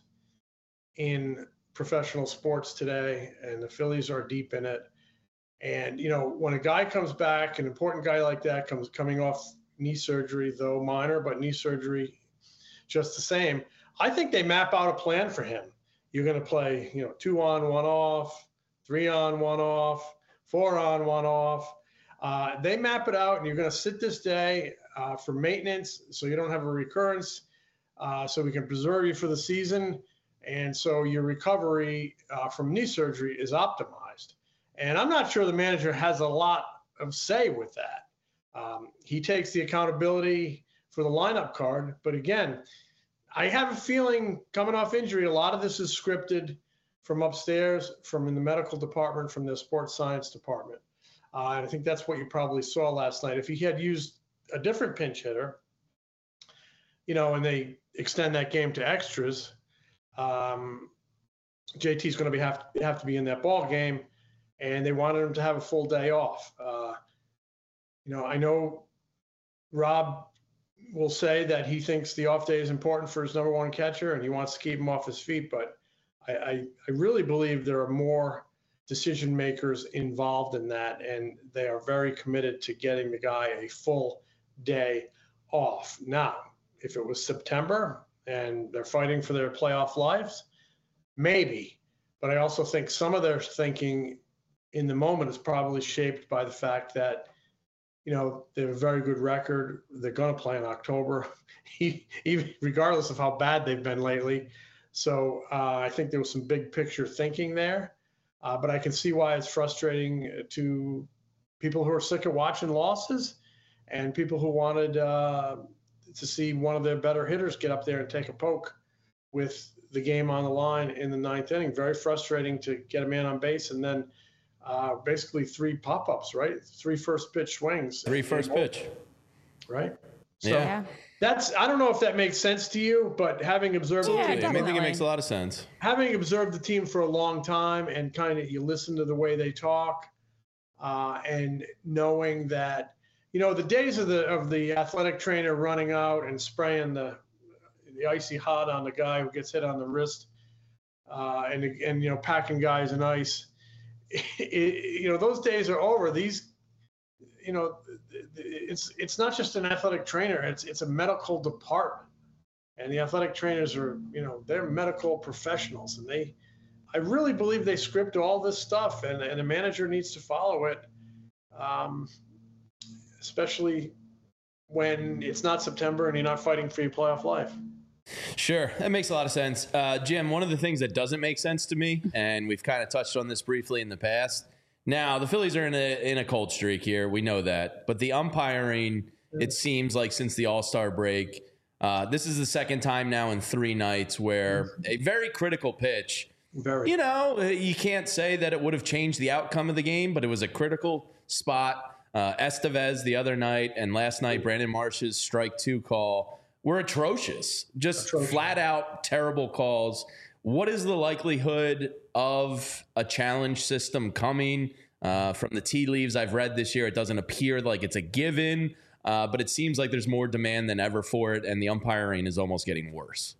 in professional sports today, and the Phillies are deep in it. And, when a guy comes back, an important guy like that coming off knee surgery, though minor, but knee surgery just the same, I think they map out a plan for him. You're going to play, 2 on, 1 off, 3 on, 1 off, 4 on, 1 off. They map it out, and you're going to sit this day for maintenance so you don't have a recurrence, so we can preserve you for the season. And so your recovery from knee surgery is optimized. And I'm not sure the manager has a lot of say with that. He takes the accountability for the lineup card. But again, I have a feeling coming off injury, a lot of this is scripted. from upstairs, from in the medical department, from the sports science department. And I think that's what you probably saw last night. If he had used a different pinch hitter, and they extend that game to extras, JT's going to have to be in that ball game, and they wanted him to have a full day off. I know Rob will say that he thinks the off day is important for his number one catcher, and he wants to keep him off his feet. But I really believe there are more decision makers involved in that, and they are very committed to getting the guy a full day off. Now, if it was September and they're fighting for their playoff lives, maybe. But I also think some of their thinking in the moment is probably shaped by the fact that, they have a very good record. They're going to play in October, even regardless of how bad they've been lately. So I think there was some big picture thinking there. But I can see why it's frustrating to people who are sick of watching losses and people who wanted to see one of their better hitters get up there and take a poke with the game on the line in the ninth inning. Very frustrating to get a man on base and then basically 3 pop-ups, right? 3 first pitch swings. 3 first pitch. Right? So Yeah. I don't know if that makes sense to you, but having observed Yeah, the team, definitely. I think it makes a lot of sense. having observed the team for a long time and kind of you listen to the way they talk and knowing that, the days of the athletic trainer running out and spraying the icy hot on the guy who gets hit on the wrist and packing guys in ice, those days are over. These, it's not just an athletic trainer, it's a medical department. And the athletic trainers are, they're medical professionals, and I really believe they script all this stuff, and a manager needs to follow it, especially when it's not September and you're not fighting for your playoff life. Sure, that makes a lot of sense. Jim, one of the things that doesn't make sense to me, and we've kind of touched on this briefly in the past. Now, the Phillies are in a cold streak here. We know that. But the umpiring, it seems like since the All-Star break, this is the second time now in 3 nights where a very critical pitch, you can't say that it would have changed the outcome of the game, but it was a critical spot. Estevez the other night and last night, Brandon Marsh's strike 2 call were atrocious. Flat out terrible calls. What is the likelihood of a challenge system coming? From the tea leaves I've read this year, it doesn't appear like it's a given, but it seems like there's more demand than ever for it, and the umpiring is almost getting worse.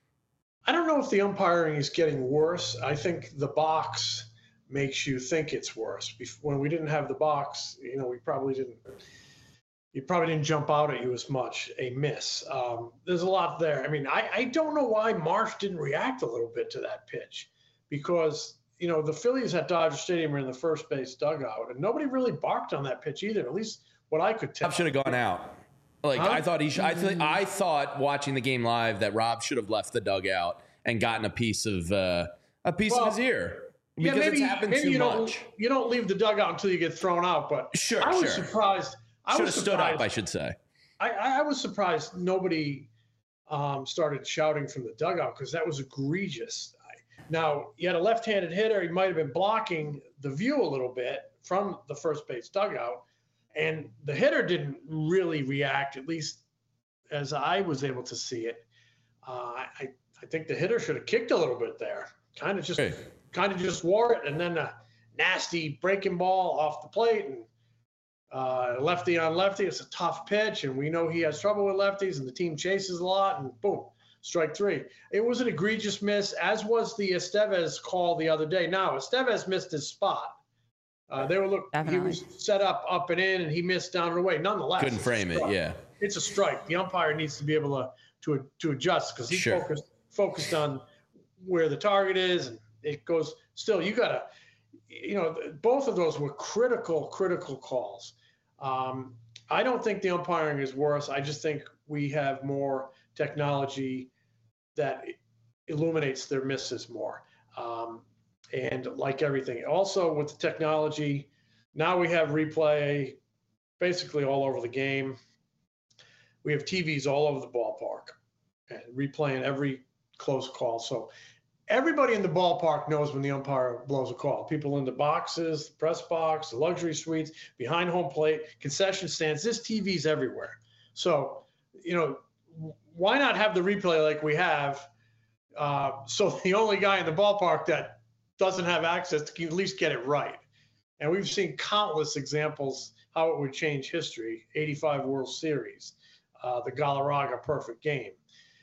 I don't know if the umpiring is getting worse. I think the box makes you think it's worse. When we didn't have the box, we probably didn't. It probably didn't jump out at you as much. A miss. There's a lot there. I mean, I don't know why Marsh didn't react a little bit to that pitch, because the Phillies at Dodger Stadium are in the first base dugout, and nobody really barked on that pitch either. At least what I could tell. Rob should have gone out. I thought he should. I thought watching the game live that Rob should have left the dugout and gotten a piece of his ear. Because maybe, it's happened too much. You don't leave the dugout until you get thrown out. But sure, I was surprised. Should have stood up, I should say. I was surprised nobody started shouting from the dugout, because that was egregious. Now, you had a left-handed hitter. He might have been blocking the view a little bit from the first base dugout, and the hitter didn't really react, at least as I was able to see it. I think the hitter should have kicked a little bit there, kind of just wore it, and then a nasty breaking ball off the plate, and lefty on lefty. It's a tough pitch, and we know he has trouble with lefties, and the team chases a lot, and boom, strike 3. It was an egregious miss, as was the Estevez call the other day. Now, Estevez missed his spot. He was set up and in, and he missed down and away. Nonetheless, couldn't frame it. Yeah, it's a strike. The umpire needs to be able to adjust, because he's focused on where the target is, and it goes. Still, you gotta, both of those were critical calls. I don't think the umpiring is worse. I just think we have more technology that illuminates their misses more. And like everything, also with the technology, now we have replay basically all over the game. We have TVs all over the ballpark and replaying every close call. So everybody in the ballpark knows when the umpire blows a call. People in the boxes, the press box, the luxury suites, behind home plate, concession stands. This TV's everywhere. So, why not have the replay like we have? So the only guy in the ballpark that doesn't have access can at least get it right. And we've seen countless examples how it would change history. 85 World Series, the Galarraga perfect game.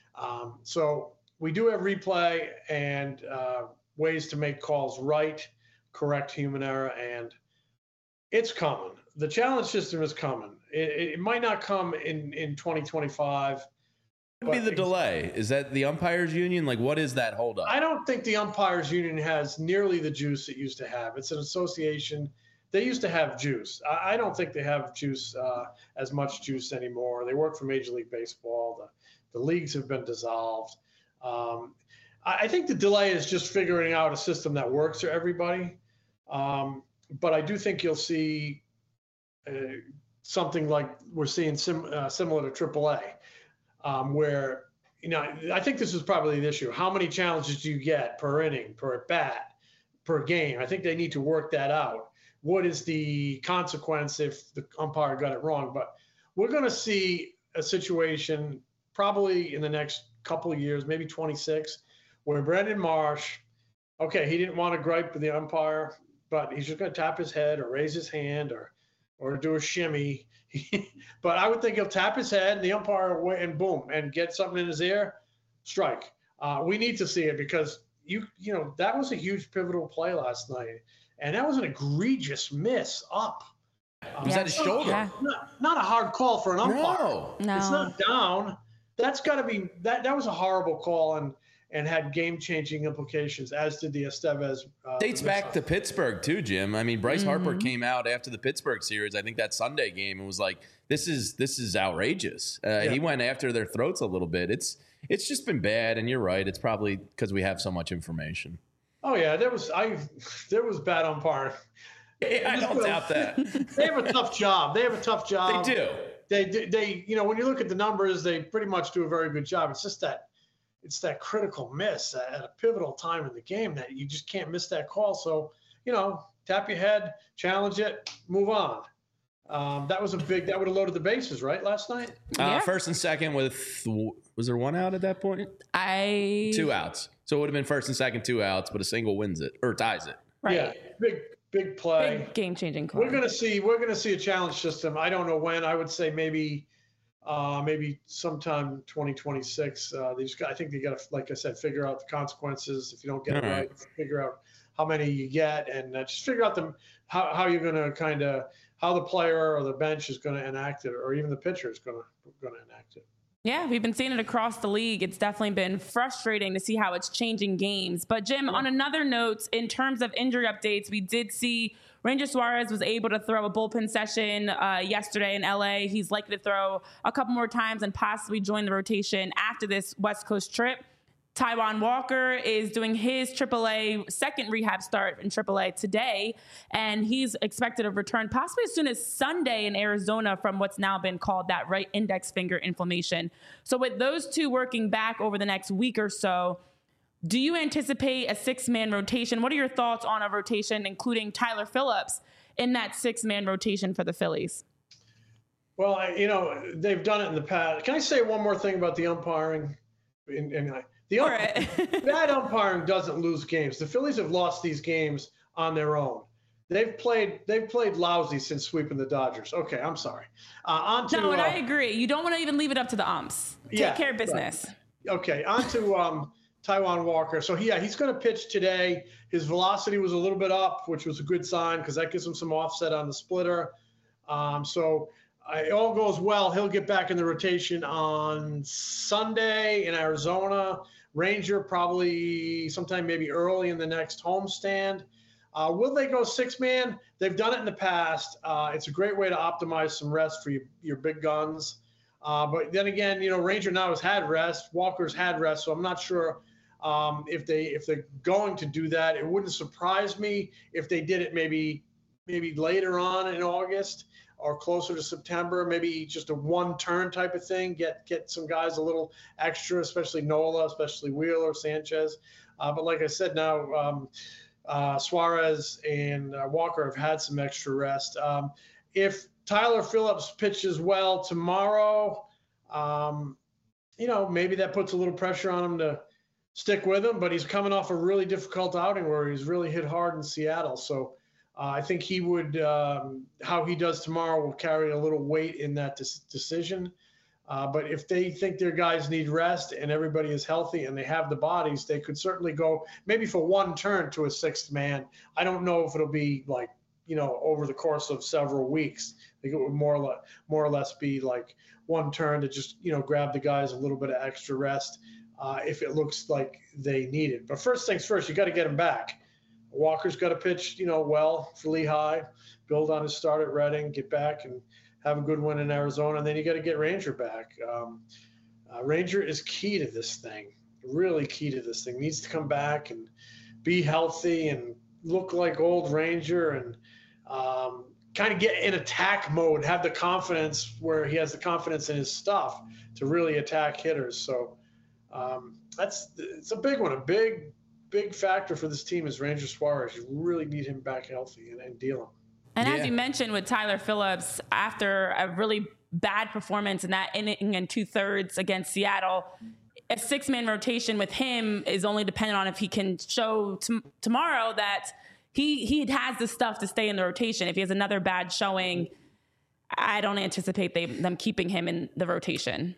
So we do have replay and ways to make calls right, correct human error, and it's coming. The challenge system is coming. It might not come in 2025. What would be the delay? Is that the umpires union? Like, what is that holdup? I don't think the umpires union has nearly the juice it used to have. It's an association. They used to have juice. I don't think they have juice, as much juice anymore. They work for Major League Baseball. The leagues have been dissolved. I think the delay is just figuring out a system that works for everybody. But I do think you'll see something like we're seeing similar to AAA, where, I think this is probably the issue. How many challenges do you get per inning, per at bat, per game? I think they need to work that out. What is the consequence if the umpire got it wrong? But we're going to see a situation probably in the next couple of years, maybe 26, where Brendan Marsh, he didn't want to gripe with the umpire, but he's just going to tap his head or raise his hand or do a shimmy. But I would think he'll tap his head and the umpire and boom, and get something in his ear, strike. We need to see it because that was a huge pivotal play last night. And that was an egregious miss up. Was that his shoulder? Yeah. Not a hard call for an umpire. No. It's not down. That's got to be that was a horrible call and had game-changing implications, as did the Estevez. Dates back to Pittsburgh too, Jim. I mean, Bryce Harper came out after the Pittsburgh series, I think that Sunday game, and was like, "This is outrageous." He went after their throats a little bit. It's just been bad, and you're right. It's probably because we have so much information. Oh yeah, there was bad umpiring. Yeah, I don't doubt that. They have a tough job. They do. They when you look at the numbers, they pretty much do a very good job. It's just that critical miss at a pivotal time in the game that you just can't miss that call. So, tap your head, challenge it, move on. That would have loaded the bases, right, last night? Yeah. First and second was there one out at that point? 2 outs. So it would have been first and second, 2 outs, but a single wins it or ties it. Right. Yeah, big play. Big game-changing call. We're gonna see a challenge system. I don't know when. I would say maybe sometime 2026. I think they got to, like I said, figure out the consequences. If you don't get it right, figure out how many you get, and just figure out how you're gonna how the player or the bench is gonna enact it, or even the pitcher is gonna enact it. Yeah, we've been seeing it across the league. It's definitely been frustrating to see how it's changing games. But Jim, on another note, in terms of injury updates, we did see Ranger Suarez was able to throw a bullpen session yesterday in LA. He's likely to throw a couple more times and possibly join the rotation after this West Coast trip. Taijuan Walker is doing his AAA second rehab start in AAA today, and he's expected to return possibly as soon as Sunday in Arizona from what's now been called that right index finger inflammation. So with those two working back over the next week or so, do you anticipate a 6-man rotation? What are your thoughts on a rotation, including Tyler Phillips, in that 6-man rotation for the Phillies? Well, they've done it in the past. Can I say one more thing about the umpiring? Bad umpiring doesn't lose games. The Phillies have lost these games on their own. They've played lousy since sweeping the Dodgers. Okay, I'm sorry. And I agree. You don't want to even leave it up to the umps. Take care of business. Right. Okay, on to Taijuan Walker. So he's going to pitch today. His velocity was a little bit up, which was a good sign because that gives him some offset on the splitter. So it all goes well. He'll get back in the rotation on Sunday in Arizona. Ranger probably sometime maybe early in the next homestand. Will they go 6-man? They've done it in the past. It's a great way to optimize some rest for your big guns. But then again, Ranger now has had rest. Walker's had rest, so I'm not sure if they're going to do that. It wouldn't surprise me if they did it maybe later on in August. or closer to September, maybe just a one-turn type of thing. Get some guys a little extra, especially Nola, especially Wheeler, Sanchez. But like I said, now Suarez and Walker have had some extra rest. If Tyler Phillips pitches well tomorrow, maybe that puts a little pressure on him to stick with him, but he's coming off a really difficult outing where he's really hit hard in Seattle. So I think he would, how he does tomorrow will carry a little weight in that decision. But if they think their guys need rest and everybody is healthy and they have the bodies, they could certainly go maybe for one turn to a sixth man. I don't know if it'll be like, over the course of several weeks. I think it would more or less be like one turn to just, grab the guys a little bit of extra rest if it looks like they need it. But first things first, you got to get him back. Walker's got to pitch, well for Lehigh, build on his start at Reading, get back and have a good win in Arizona, and then you got to get Ranger back. Ranger is key to this thing, really key to this thing. Needs to come back and be healthy and look like old Ranger and kind of get in attack mode, have the confidence where he has the confidence in his stuff to really attack hitters. So it's a big one, a big factor for this team is Ranger Suarez. You really need him back healthy and deal him. And as you mentioned with Tyler Phillips, after a really bad performance in that inning and 2/3 against Seattle, a 6-man rotation with him is only dependent on if he can show tomorrow that he has the stuff to stay in the rotation. If he has another bad showing, I don't anticipate them keeping him in the rotation.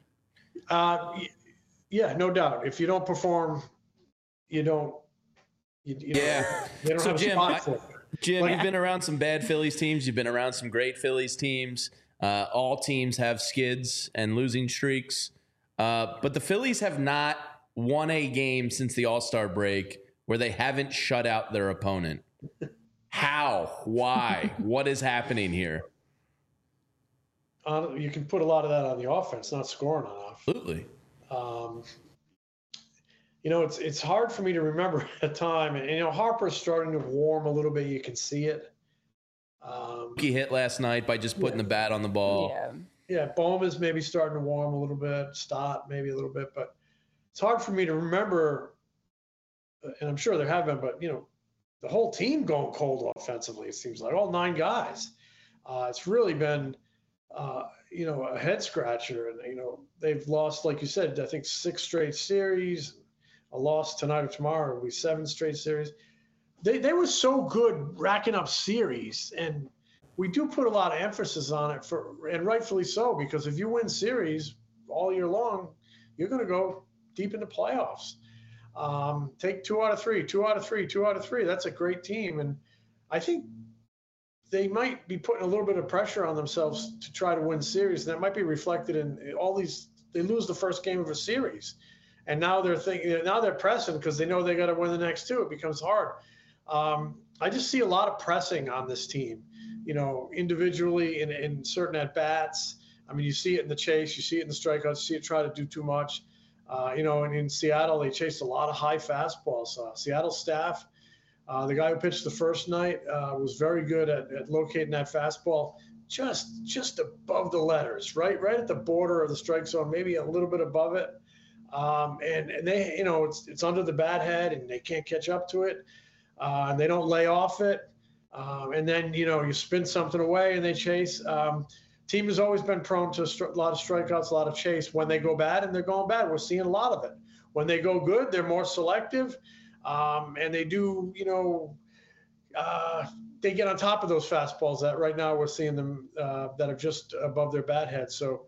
Yeah, no doubt. If you don't perform, you don't. They don't have a spot for it. Jim, you've been around some bad Phillies teams. You've been around some great Phillies teams. All teams have skids and losing streaks. But the Phillies have not won a game since the All-Star break where they haven't shut out their opponent. How? Why? What is happening here? You can put a lot of that on the offense, not scoring enough. Absolutely. It's hard for me to remember a time, and Harper's starting to warm a little bit. You can see it. He hit last night by just putting the bat on the ball. Yeah, Bowman's maybe starting to warm a little bit. Stott maybe a little bit, but it's hard for me to remember. And I'm sure there have been, but the whole team going cold offensively. It seems like all 9 guys. It's really been. A head scratcher, and they've lost, like you said, I think 6 straight series. A loss tonight or tomorrow will be 7 straight series. They were so good racking up series, and we do put a lot of emphasis on it and rightfully so, because if you win series all year long, you're going to go deep into playoffs. Take 2 out of 3, 2 out of 3, 2 out of 3. That's a great team, and I think they might be putting a little bit of pressure on themselves to try to win series. And that might be reflected in all these. They lose the first game of a series, and now they're thinking. Now they're pressing because they know they got to win the next 2. It becomes hard. I just see a lot of pressing on this team. Individually in certain at bats. I mean, you see it in the chase, you see it in the strikeouts, you see it try to do too much. And in Seattle, they chased a lot of high fastballs. Seattle staff. The guy who pitched the first night was very good at locating that fastball just above the letters, right at the border of the strike zone, maybe a little bit above it. And they, it's under the bat head, and they can't catch up to it, and they don't lay off it. And then you spin something away, and they chase. Team has always been prone to a lot of strikeouts, a lot of chase. When they go bad, and they're going bad, we're seeing a lot of it. When they go good, they're more selective. And they do, they get on top of those fastballs that right now we're seeing them that are just above their bat head. So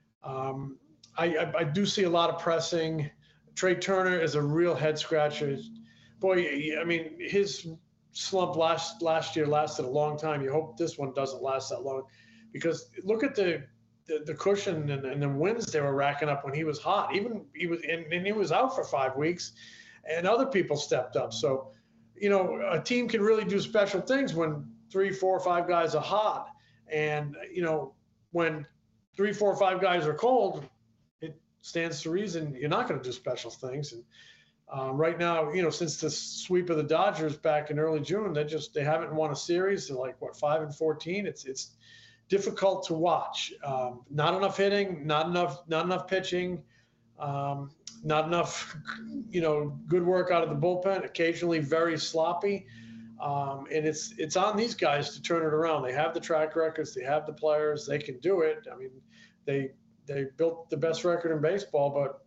I do see a lot of pressing. Trey Turner is a real head scratcher. Boy, I mean, his slump last year lasted a long time. You hope this one doesn't last that long, because look at the cushion and the wins they were racking up when he was hot. He was out for 5 weeks. And other people stepped up. So, a team can really do special things when 3, 4, 5 guys are hot. And, when 3, 4, 5 guys are cold, it stands to reason you're not going to do special things. And right now, since the sweep of the Dodgers back in early June, they haven't won a series. They're like, 5-14? difficult to watch. Not enough hitting, not enough pitching, not enough, good work out of the bullpen. Occasionally, very sloppy. And it's on these guys to turn it around. They have the track records, they have the players, they can do it. I mean, they built the best record in baseball, but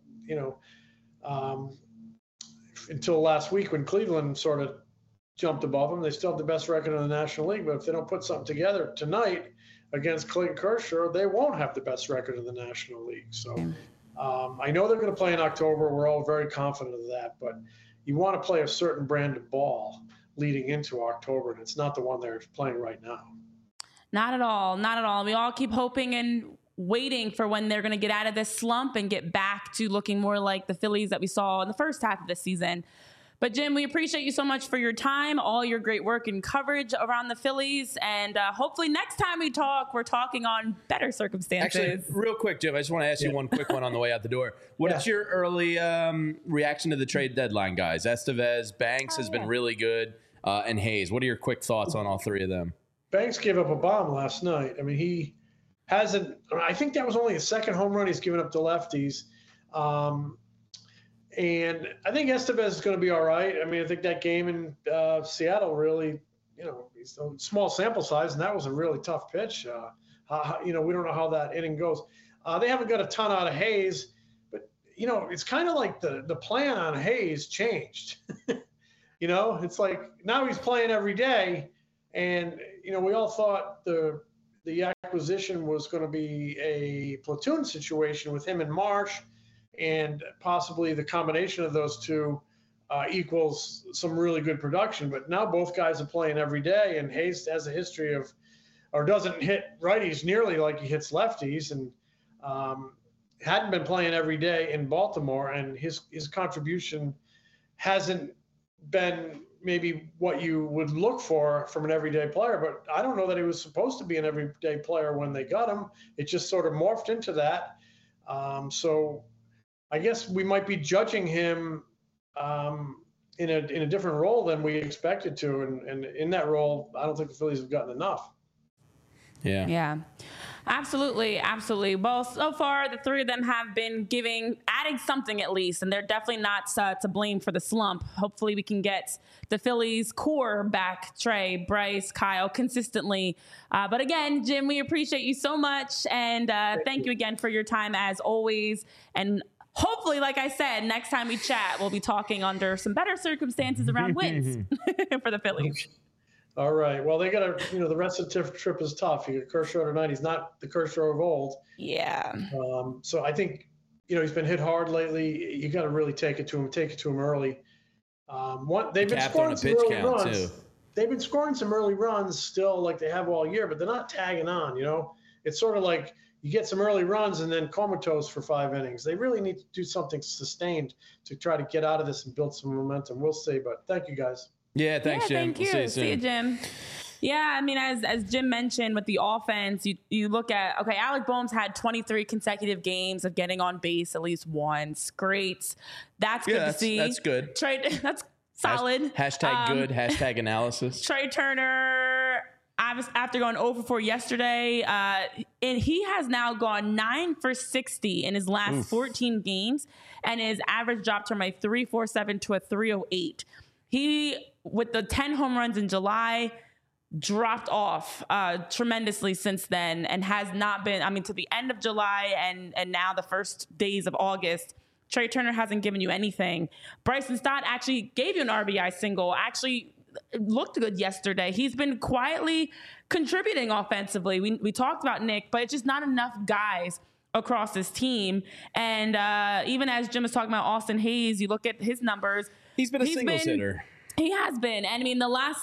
until last week when Cleveland sort of jumped above them, they still have the best record in the National League. But if they don't put something together tonight against Clayton Kershaw, they won't have the best record in the National League. So I know they're going to play in October. We're all very confident of that, but you want to play a certain brand of ball leading into October, and it's not the one they're playing right now. Not at all. Not at all. We all keep hoping and waiting for when they're going to get out of this slump and get back to looking more like the Phillies that we saw in the first half of the season. But Jim, we appreciate you so much for your time, all your great work and coverage around the Phillies. And hopefully next time we talk, we're talking on better circumstances. Actually, real quick, Jim, I just want to ask you one quick one on the way out the door. What is your early reaction to the trade deadline, guys? Estevez, Banks has been really good, and Hayes. What are your quick thoughts on all three of them? Banks gave up a bomb last night. I mean, he hasn't – I think that was only his second home run he's given up to lefties. And I think Estevez is going to be all right. I mean, I think that game in Seattle really, it's a small sample size, and that was a really tough pitch. We don't know how that inning goes. They haven't got a ton out of Hayes, but, it's kind of like the plan on Hayes changed. It's like now he's playing every day, and, we all thought the acquisition was going to be a platoon situation with him and Marsh, and possibly the combination of those two equals some really good production. But now both guys are playing every day, and Hayes has a history of, or doesn't hit righties nearly like he hits lefties, and hadn't been playing every day in Baltimore, and his contribution hasn't been maybe what you would look for from an everyday player. But I don't know that he was supposed to be an everyday player when they got him. It just sort of morphed into that. So I guess we might be judging him in a different role than we expected to, and in that role, I don't think the Phillies have gotten enough. Yeah, absolutely. Well, so far the three of them have been adding something at least, and they're definitely not to blame for the slump. Hopefully, we can get the Phillies core back: Trey, Bryce, Kyle, consistently. But again, Jim, we appreciate you so much, and thank you again for your time as always. And hopefully, like I said, next time we chat, we'll be talking under some better circumstances around wins for the Phillies. All right. Well, they got to, the rest of the trip is tough. You got Kershaw tonight. He's not the Kershaw of old. Yeah. So I think, he's been hit hard lately. You got to really take it to him early. They've been scoring some early runs. Too. They've been scoring some early runs still, like they have all year, but they're not tagging on. It's sort of like you get some early runs and then comatose for 5 innings. They really need to do something sustained to try to get out of this and build some momentum. We'll see. But thank you, guys. Yeah, thanks, Jim. Thank you. We'll see you, Jim. Yeah, I mean, as Jim mentioned with the offense, you look at, Alec Boehm's had 23 consecutive games of getting on base at least once. Great. That's good to see. That's good. That's solid. Hashtag good, hashtag analysis. Trey Turner, after going 0 for 4 yesterday, and he has now gone 9 for 60 in his last 14 games, and his average dropped from a 3.47 to a 3.08. He, with the 10 home runs in July, dropped off tremendously since then, and has not been, to the end of July and now the first days of August, Trey Turner hasn't given you anything. Bryson Stott actually gave you an RBI single, actually looked good yesterday. He's been quietly contributing offensively. We talked about Nick, but it's just not enough guys across this team. And even as Jim was talking about Austin Hayes, you look at his numbers. He's been a singles hitter. He has been. And the last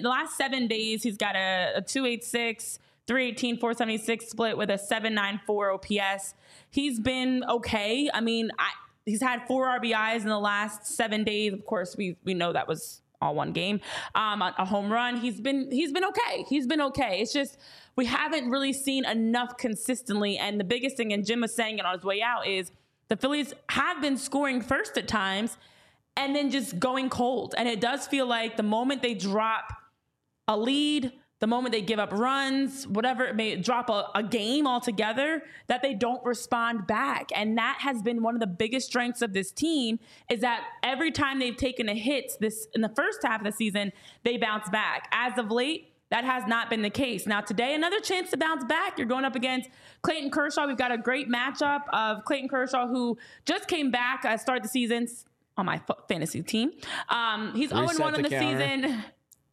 7 days, he's got a 286, 318, 476 split with a 794 OPS. He's been okay. He's had 4 RBIs in the last 7 days. Of course, we know that was all one game. A home run. He's been okay. He's been okay. It's just we haven't really seen enough consistently. And the biggest thing, and Jim was saying it on his way out, is the Phillies have been scoring first at times and then just going cold. And it does feel like the moment they drop a lead, the moment they give up runs, whatever it may drop a game altogether, that they don't respond back. And that has been one of the biggest strengths of this team, is that every time they've taken a hit in the first half of the season, they bounce back. As of late, that has not been the case. Now today, another chance to bounce back. You're going up against Clayton Kershaw. We've got a great matchup of Clayton Kershaw, who just came back, started the season on my fantasy team. He's 0-1 in the season.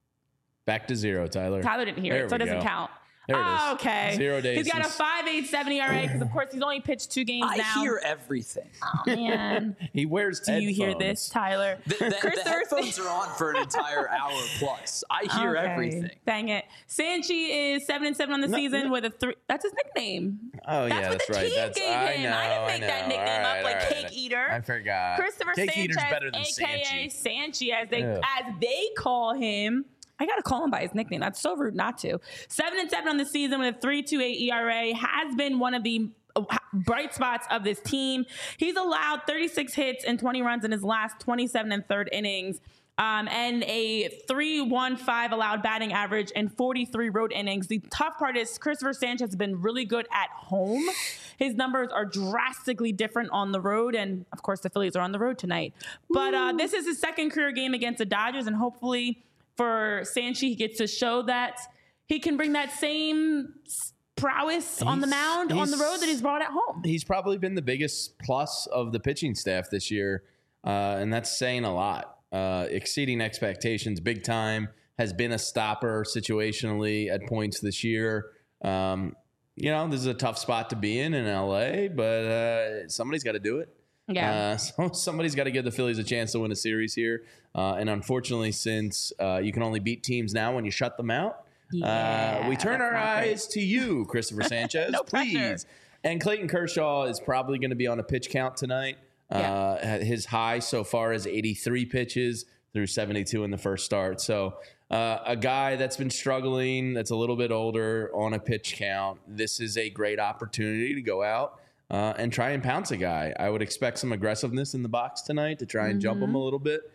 Back to 0, Tyler. Tyler didn't hear it, so it doesn't count. There it is. Oh, okay. 0 days. He's got a 5.87 ERA because, of course, he's only pitched 2 games now. I hear everything. Oh, man. He wears headphones. Do you hear this, Tyler? The headphones are on for an entire hour plus. I hear everything. Dang it. Sanchi is 7-7 on the season with a 3. That's his nickname. Oh, that's yeah, what that's the right. team gave him. I didn't make that nickname up like Cake Eater. I forgot. Christopher Cake Sanchez, Eater's better than a.k.a. Sanchi. Sanchi, as they call him. I got to call him by his nickname. That's so rude not to. 7-7 on the season with a 3.28 ERA, has been one of the bright spots of this team. He's allowed 36 hits and 20 runs in his last 27 and third innings. And a 3.15 allowed batting average and 43 road innings. The tough part is Christopher Sanchez has been really good at home. His numbers are drastically different on the road. And, of course, the Phillies are on the road tonight. But this is his second career game against the Dodgers, and hopefully for Sanchi, he gets to show that he can bring that same prowess on the mound, on the road, that he's brought at home. He's probably been the biggest plus of the pitching staff this year, and that's saying a lot. Exceeding expectations big time, has been a stopper situationally at points this year. This is a tough spot to be in LA, but somebody's got to do it. Yeah. So somebody's got to give the Phillies a chance to win a series here. And unfortunately, since you can only beat teams now when you shut them out, we turn our eyes to you, Christopher Sanchez, No please. pressure. And Clayton Kershaw is probably going to be on a pitch count tonight. His high so far is 83 pitches through 72 in the first start. So a guy that's been struggling, that's a little bit older, on a pitch count. This is a great opportunity to go out and try and pounce a guy. I would expect some aggressiveness in the box tonight to try and jump him a little bit.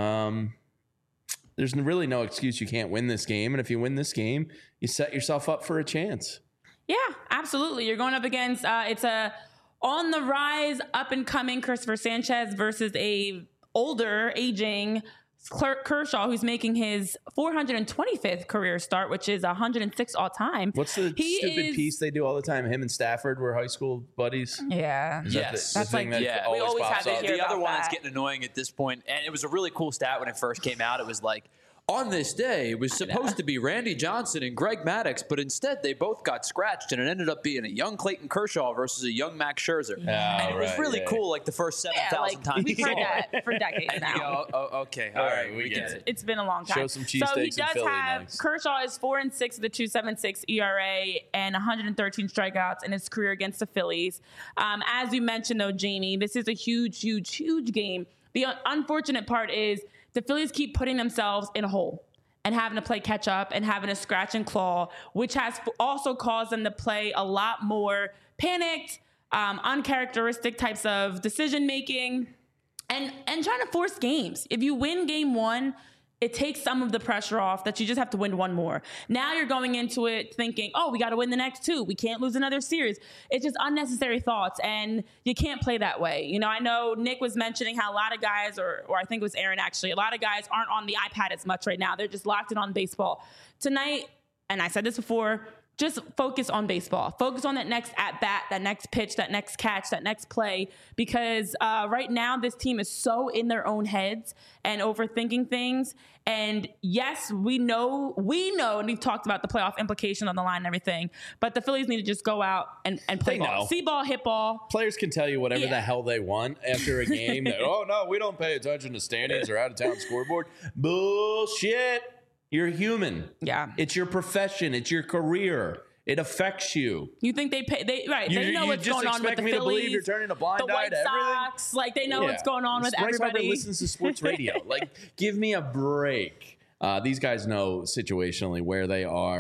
There's really no excuse you can't win this game. And if you win this game, you set yourself up for a chance. Yeah, absolutely. You're going up against, it's a on the rise, up and coming Christopher Sanchez versus a older, aging Kershaw, who's making his 425th career start, which is 106 all time. What's the stupid piece they do all the time? Him and Stafford were high school buddies. Yeah. Yes. That's like, we always have to hear The other about one is that. getting annoying at this point, and it was a really cool stat when it first came out. It was like, on this day, it was supposed to be Randy Johnson and Greg Maddux, but instead they both got scratched, and it ended up being a young Clayton Kershaw versus a young Max Scherzer. Yeah. And it was really cool, like the first 7,000 times we've we saw heard it. that for decades And now. you go, okay, all right, we get it. It's been a long time. Show some So he cheesesteaks and does Philly have next. Kershaw is 4-6 with a 2.76 ERA and 113 strikeouts in his career against the Phillies. As you mentioned, though, Jamie, this is a huge, huge, huge game. The unfortunate part is the Phillies keep putting themselves in a hole and having to play catch up and having to scratch and claw, which has also caused them to play a lot more panicked, uncharacteristic types of decision making, and trying to force games. If you win game one, it takes some of the pressure off that you just have to win one more. Now you're going into it thinking, oh, we got to win the next two. We can't lose another series. It's just unnecessary thoughts, and you can't play that way. You know, I know Nick was mentioning how a lot of guys, or I think it was Aaron actually, a lot of guys aren't on the iPad as much right now. They're just locked in on baseball. Tonight, and I said this before, just focus on baseball. Focus on that next at-bat, that next pitch, that next catch, that next play. Because right now, this team is so in their own heads and overthinking things. And yes, we know, and we've talked about the playoff implication on the line and everything, but the Phillies need to just go out and play ball. See ball, hit ball. Players can tell you whatever the hell they want after a game. That, oh, no, we don't pay attention to standings or out-of-town scoreboard. Bullshit. You're human. Yeah. It's your profession. It's your career. It affects you. You think they pay? They know what's going on with the me to believe Phillies, you're turning a blind the eye White to everything? Sox. Like they know what's going on with Bryce Harper everybody. listens to sports radio. Like, give me a break. These guys know situationally where they are.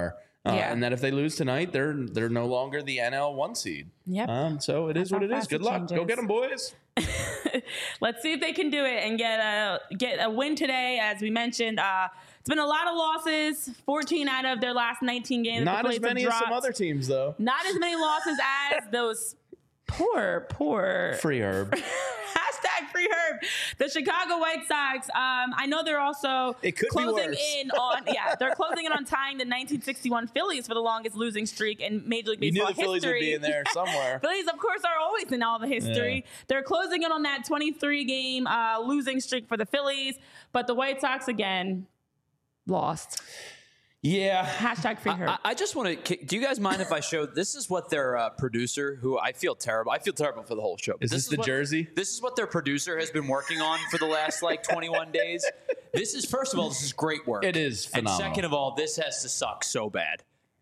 Yeah. And that if they lose tonight, they're no longer the NL 1 seed. Yep. So it is what it is. Good luck. Go get them, boys. Let's see if they can do it and get a win today. As we mentioned, it's been a lot of losses. 14 out of their last 19 games. Not as many as some other teams, though. Not as many losses as those poor Free Herb. Hashtag free Herb. The Chicago White Sox. I know they're also closing in on they're closing in on tying the 1961 Phillies for the longest losing streak in Major League Baseball history. You knew the Phillies would be in there somewhere. Phillies, of course, are always in all the history. Yeah. They're closing in on that 23-game losing streak for the Phillies, but the White Sox again lost. Yeah. Hashtag free Herb. I just want to. Do you guys mind if I show? This is what their producer, who I feel terrible for the whole show. Is this the jersey? This is what their producer has been working on for the last 21 days. This is, first of all, this is great work. It is phenomenal. And second of all, this has to suck so bad.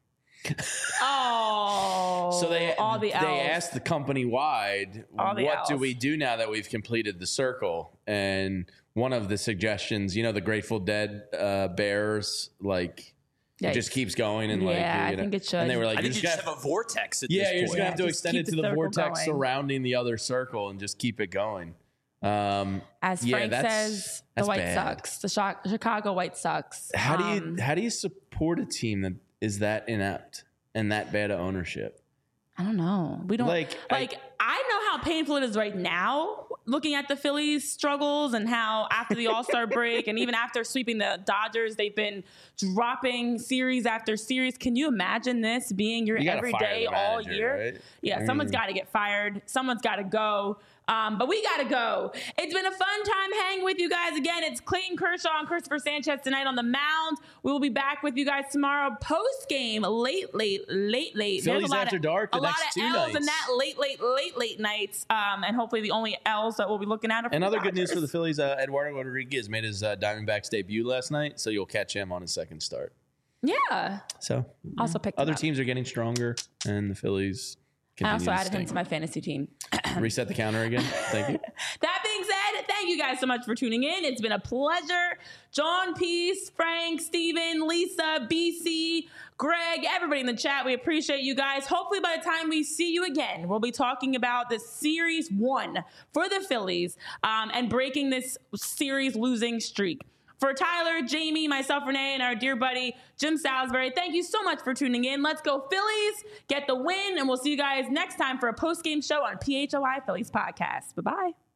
So they asked the company wide, what do we do now that we've completed the circle? And one of the suggestions, the Grateful Dead Bears, it just keeps going and I think it should. And they were like, I think you just have a vortex at this point. You're just gonna have to extend it to the vortex surrounding the other circle and just keep it going. As Frank says, the White Sox, the Chicago White Sox. How do you support a team that is that inept and that bad of ownership? I don't know. We don't I know how painful it is right now looking at the Phillies' struggles and how after the All-Star break and even after sweeping the Dodgers, they've been dropping series after series. Can you imagine this being your everyday all year? Right? Yeah, someone's got to get fired. Someone's got to go. But we got to go. It's been a fun time hanging with you guys. Again, it's Clayton Kershaw and Christopher Sanchez tonight on the mound. We will be back with you guys tomorrow post-game, late. Phillies After Dark the next 2 nights. A lot of L's in that late nights. And hopefully the only L's that we'll be looking at are and other good news for the Phillies, Eduardo Rodriguez made his Diamondbacks debut last night, so you'll catch him on his second start. Yeah. So also picked other teams are getting stronger, and the Phillies I also added him to my fantasy team. Reset the counter again. Thank you. That being said, thank you guys so much for tuning in. It's been a pleasure. John, Peace, Frank, Steven, Lisa, BC, Greg, everybody in the chat. We appreciate you guys. Hopefully by the time we see you again, we'll be talking about the Series 1 for the Phillies and breaking this series losing streak. For Tyler, Jamie, myself, Renee, and our dear buddy, Jim Salisbury, thank you so much for tuning in. Let's go Phillies, get the win, and we'll see you guys next time for a post-game show on PHOI Phillies Podcast. Bye-bye.